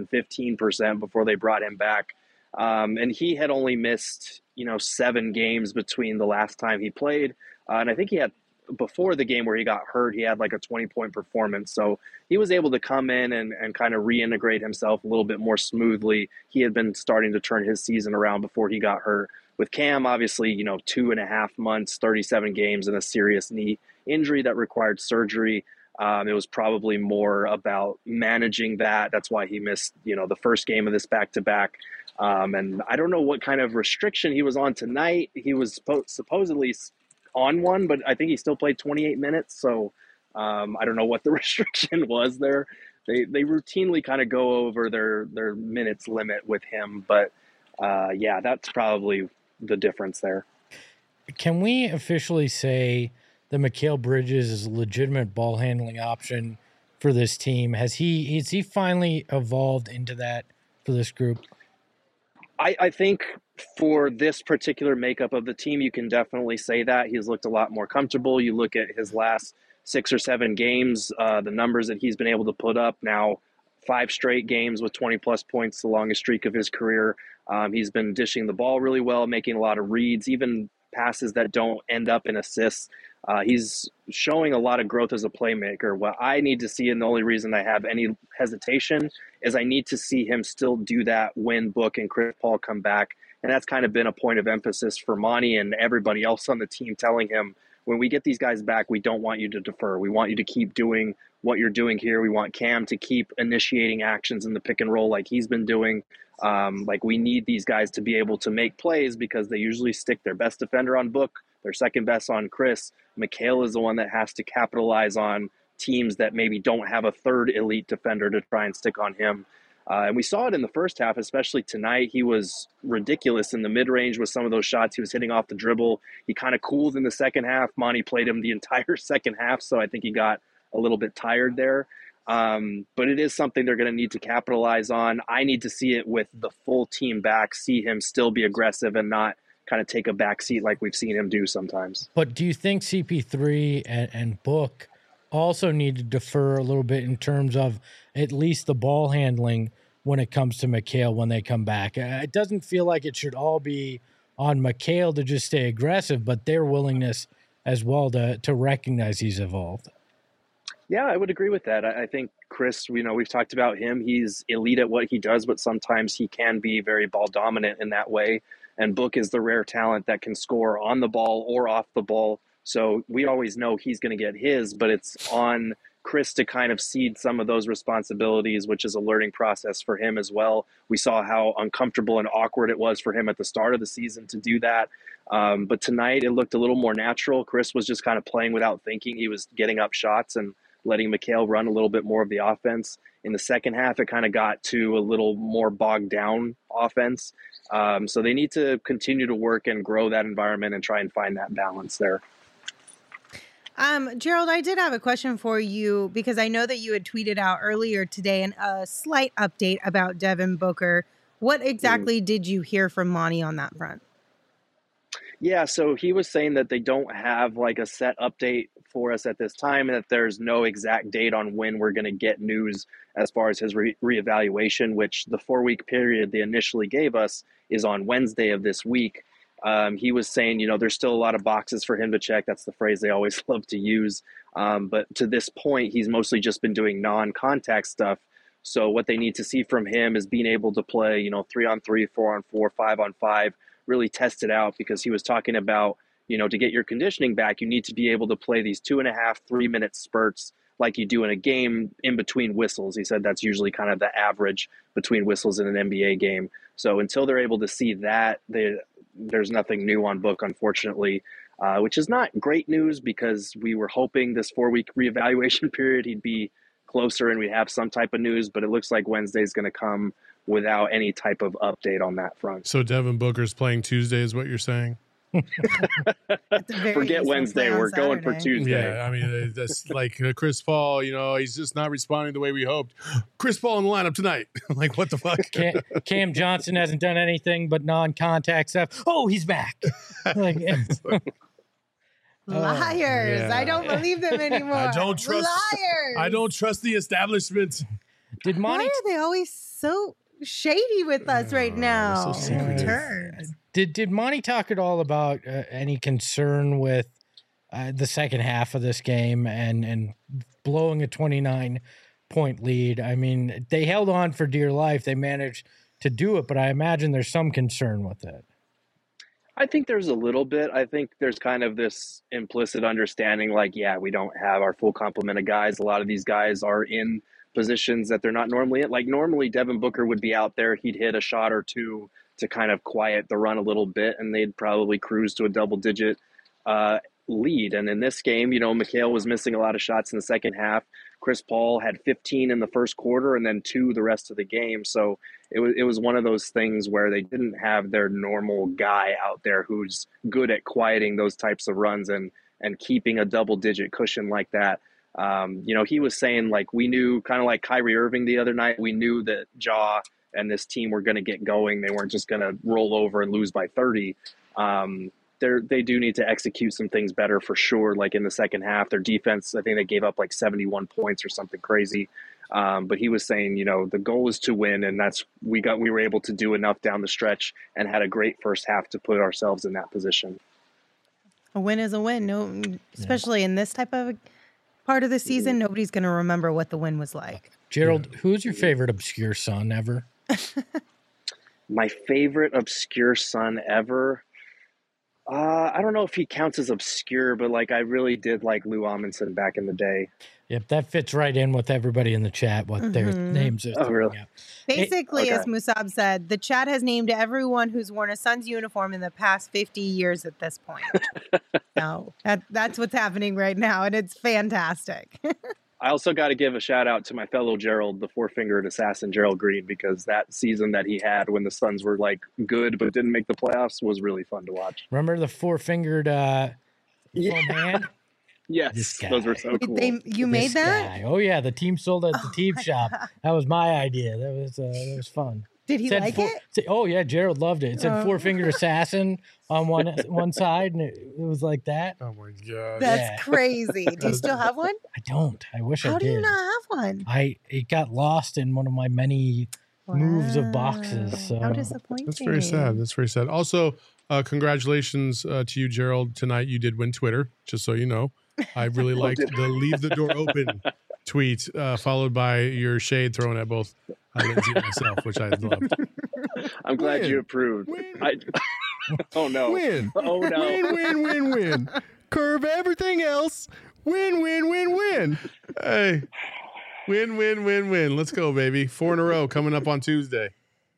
115% before they brought him back. And he had only missed, 7 games between the last time he played. And I think he had before the game where he got hurt, he had like a 20-point performance. So he was able to come in and kind of reintegrate himself a little bit more smoothly. He had been starting to turn his season around before he got hurt. With Cam, obviously, 2.5 months, 37 games, and a serious knee injury that required surgery. It was probably more about managing that. That's why he missed, the first game of this back-to-back. And I don't know what kind of restriction he was on tonight. He was supposedly on one, but I think he still played 28 minutes. So I don't know what the restriction was there. They routinely kind of go over their minutes limit with him. But yeah, that's probably the difference there. Can we officially say that Mikal Bridges is a legitimate ball handling option for this team? Has he finally evolved into that for this group? I think for this particular makeup of the team, you can definitely say that. He's looked a lot more comfortable. You look at his last 6 or 7 games, the numbers that he's been able to put up now, 5 straight games with 20-plus points, the longest streak of his career. He's been dishing the ball really well, making a lot of reads, even passes that don't end up in assists. He's showing a lot of growth as a playmaker. What I need to see, and the only reason I have any hesitation, is I need to see him still do that when Book and Chris Paul come back. And that's kind of been a point of emphasis for Monty and everybody else on the team, telling him, when we get these guys back, we don't want you to defer. We want you to keep doing what you're doing here. We want Cam to keep initiating actions in the pick and roll like he's been doing. We need these guys to be able to make plays because they usually stick their best defender on Book, their second best on Chris. Mikal is the one that has to capitalize on teams that maybe don't have a third elite defender to try and stick on him. And we saw it in the first half, especially tonight. He was ridiculous in the mid-range with some of those shots he was hitting off the dribble. He kind of cooled in the second half. Monty played him the entire second half, so I think he got a little bit tired there. But it is something they're going to need to capitalize on. I need to see it with the full team back, see him still be aggressive and not kind of take a back seat like we've seen him do sometimes. But do you think CP3 and Book also need to defer a little bit in terms of at least the ball handling when it comes to Mikal when they come back? It doesn't feel like it should all be on Mikal to just stay aggressive, but their willingness as well to recognize he's evolved. Yeah, I would agree with that. I think Chris, we've talked about him. He's elite at what he does, but sometimes he can be very ball dominant in that way. And Book is the rare talent that can score on the ball or off the ball. So we always know he's going to get his, but it's on Chris to kind of cede some of those responsibilities, which is a learning process for him as well. We saw how uncomfortable and awkward it was for him at the start of the season to do that. But tonight it looked a little more natural. Chris was just kind of playing without thinking. He was getting up shots and letting Mikal run a little bit more of the offense. In the second half, it kind of got to a little more bogged down offense. So they need to continue to work and grow that environment and try and find that balance there. Gerald, I did have a question for you because I know that you had tweeted out earlier today a slight update about Devin Booker. What exactly did you hear from Monty on that front? Yeah, so he was saying that they don't have like a set update for us at this time and that there's no exact date on when we're going to get news as far as his reevaluation, which the 4-week period they initially gave us is on Wednesday of this week. He was saying, there's still a lot of boxes for him to check. That's the phrase they always love to use. But to this point, he's mostly just been doing non-contact stuff. So what they need to see from him is being able to play, 3-on-3, 4-on-4, 5-on-5, really test it out, because he was talking about, to get your conditioning back, you need to be able to play these 2.5, 3-minute spurts like you do in a game in between whistles. He said that's usually kind of the average between whistles in an NBA game. So until they're able to see that, there's nothing new on Book, unfortunately, which is not great news because we were hoping this 4-week reevaluation period he'd be closer and we'd have some type of news, but it looks like Wednesday's going to come without any type of update on that front. So Devin Booker's playing Tuesday is what you're saying? Forget Wednesday. We're going for Tuesday. Yeah, I mean, that's like Chris Paul, he's just not responding the way we hoped. Chris Paul in the lineup tonight. Like, what the fuck? Cam Johnson hasn't done anything but non-contact stuff. Oh, he's back. Liars. Yeah. I don't believe them anymore. I don't trust the establishment. Why are they always so shady with us right now? So secretive. Turds. Did Monty talk at all about any concern with the second half of this game and blowing a 29-point lead. I mean, they held on for dear life. They managed to do it, but I imagine there's some concern with it. I think there's a little bit. I think there's kind of this implicit understanding like, yeah, we don't have our full complement of guys. A lot of these guys are in positions that they're not normally in. Like normally Devin Booker would be out there. He'd hit a shot or two to kind of quiet the run a little bit, and they'd probably cruise to a double-digit lead. And in this game, Mikal was missing a lot of shots in the second half. Chris Paul had 15 in the first quarter and then 2 the rest of the game. So it was one of those things where they didn't have their normal guy out there who's good at quieting those types of runs and keeping a double-digit cushion like that. He was saying, like, we knew, kind of like Kyrie Irving the other night, we knew that Ja and this team were going to get going. They weren't just going to roll over and lose by 30. They do need to execute some things better for sure. Like in the second half, their defense, I think they gave up like 71 points or something crazy. But he was saying, the goal is to win, and we were able to do enough down the stretch and had a great first half to put ourselves in that position. A win is a win. No, especially in this type of part of the season, nobody's going to remember what the win was like. Gerald, who's your favorite obscure son ever? My favorite obscure son ever. I don't know if he counts as obscure, but like I really did like Lou Amundsen back in the day. Yep, that fits right in with everybody in the chat, what their names are. Oh, really? Out. Basically, as Musab said, the chat has named everyone who's worn a Suns uniform in the past 50 years at this point. So that's what's happening right now, and it's fantastic. I also got to give a shout out to my fellow Gerald, the four-fingered assassin Gerald Green, because that season that he had when the Suns were like good but didn't make the playoffs was really fun to watch. Remember the four-fingered full hand? Yes, those were so cool. You made that? Guy. Oh yeah, the team sold it at the team shop. God. That was my idea. That was fun. Did he like it? Oh yeah, Gerald loved it. It said four-fingered assassin on one side, and it was like that. Oh my god, that's crazy. Do you still have one? I don't. I wish I did. How do you not have one? It got lost in one of my many moves of boxes. So. How disappointing. That's very sad. That's very sad. Also, congratulations to you, Gerald. Tonight you did win Twitter, just so you know. I really liked the leave the door open tweet, followed by your shade thrown at both Lindsay and myself, which I loved. I'm glad you approved. Oh no. Win. Oh no. Win. Curve everything else. Win. Hey. Win. Let's go, baby. 4 in a row coming up on Tuesday.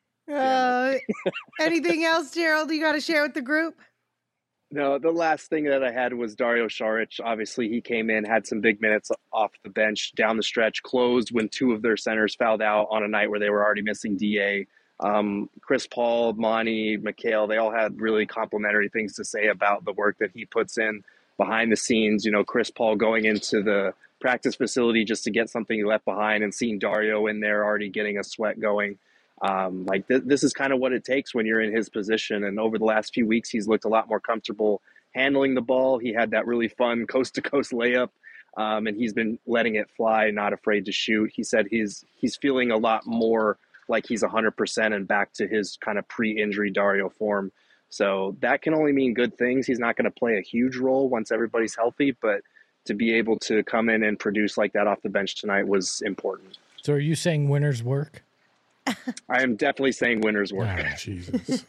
Anything else, Gerald, you got to share with the group? No, the last thing that I had was Dario Saric. Obviously, he came in, had some big minutes off the bench, down the stretch, closed when 2 of their centers fouled out on a night where they were already missing DA. Chris Paul, Monty, Mikal, they all had really complimentary things to say about the work that he puts in behind the scenes. Chris Paul going into the practice facility just to get something he left behind and seeing Dario in there already getting a sweat going. This is kind of what it takes when you're in his position. And over the last few weeks, he's looked a lot more comfortable handling the ball. He had that really fun coast-to-coast layup, and he's been letting it fly, not afraid to shoot. He said he's feeling a lot more like he's 100% and back to his kind of pre-injury Dario form. So that can only mean good things. He's not going to play a huge role once everybody's healthy, but to be able to come in and produce like that off the bench tonight was important. So are you saying winners work? I am definitely saying winners work. Oh, Jesus.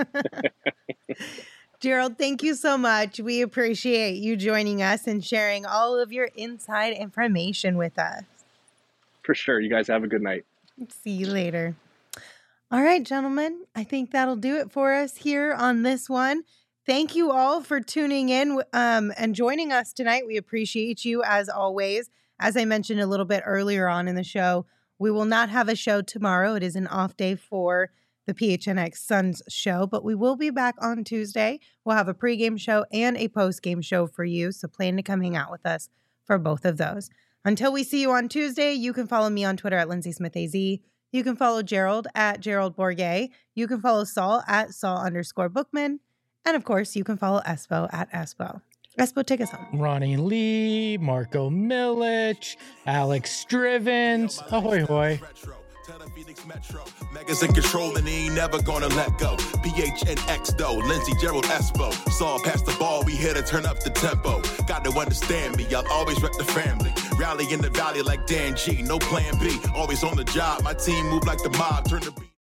Gerald, thank you so much. We appreciate you joining us and sharing all of your inside information with us. For sure. You guys have a good night. See you later. All right, gentlemen, I think that'll do it for us here on this one. Thank you all for tuning in and joining us tonight. We appreciate you as always. As I mentioned a little bit earlier on in the show, we will not have a show tomorrow. It is an off day for the PHNX Suns show, but we will be back on Tuesday. We'll have a pregame show and a postgame show for you, so plan to come hang out with us for both of those. Until we see you on Tuesday, you can follow me on Twitter at LindsaySmithAZ. You can follow Gerald at Gerald Bourget. You can follow Saul at Saul_Bookman. And of course, you can follow Espo at Espo. Espo, take us home. Ronnie Lee, Marco Milic, Alex Strivens. Ahoy, hoy. Cut a Phoenix Metro. Megas in control and he ain't never gonna let go. PHNX though, Lindsey, Gerald, Espo. Saw past the ball, we here to turn up the tempo. Got to understand me, I'll always rep the family. Rally in the valley like Dan G, no plan B. Always on the job, my team move like the mob, turn the beat.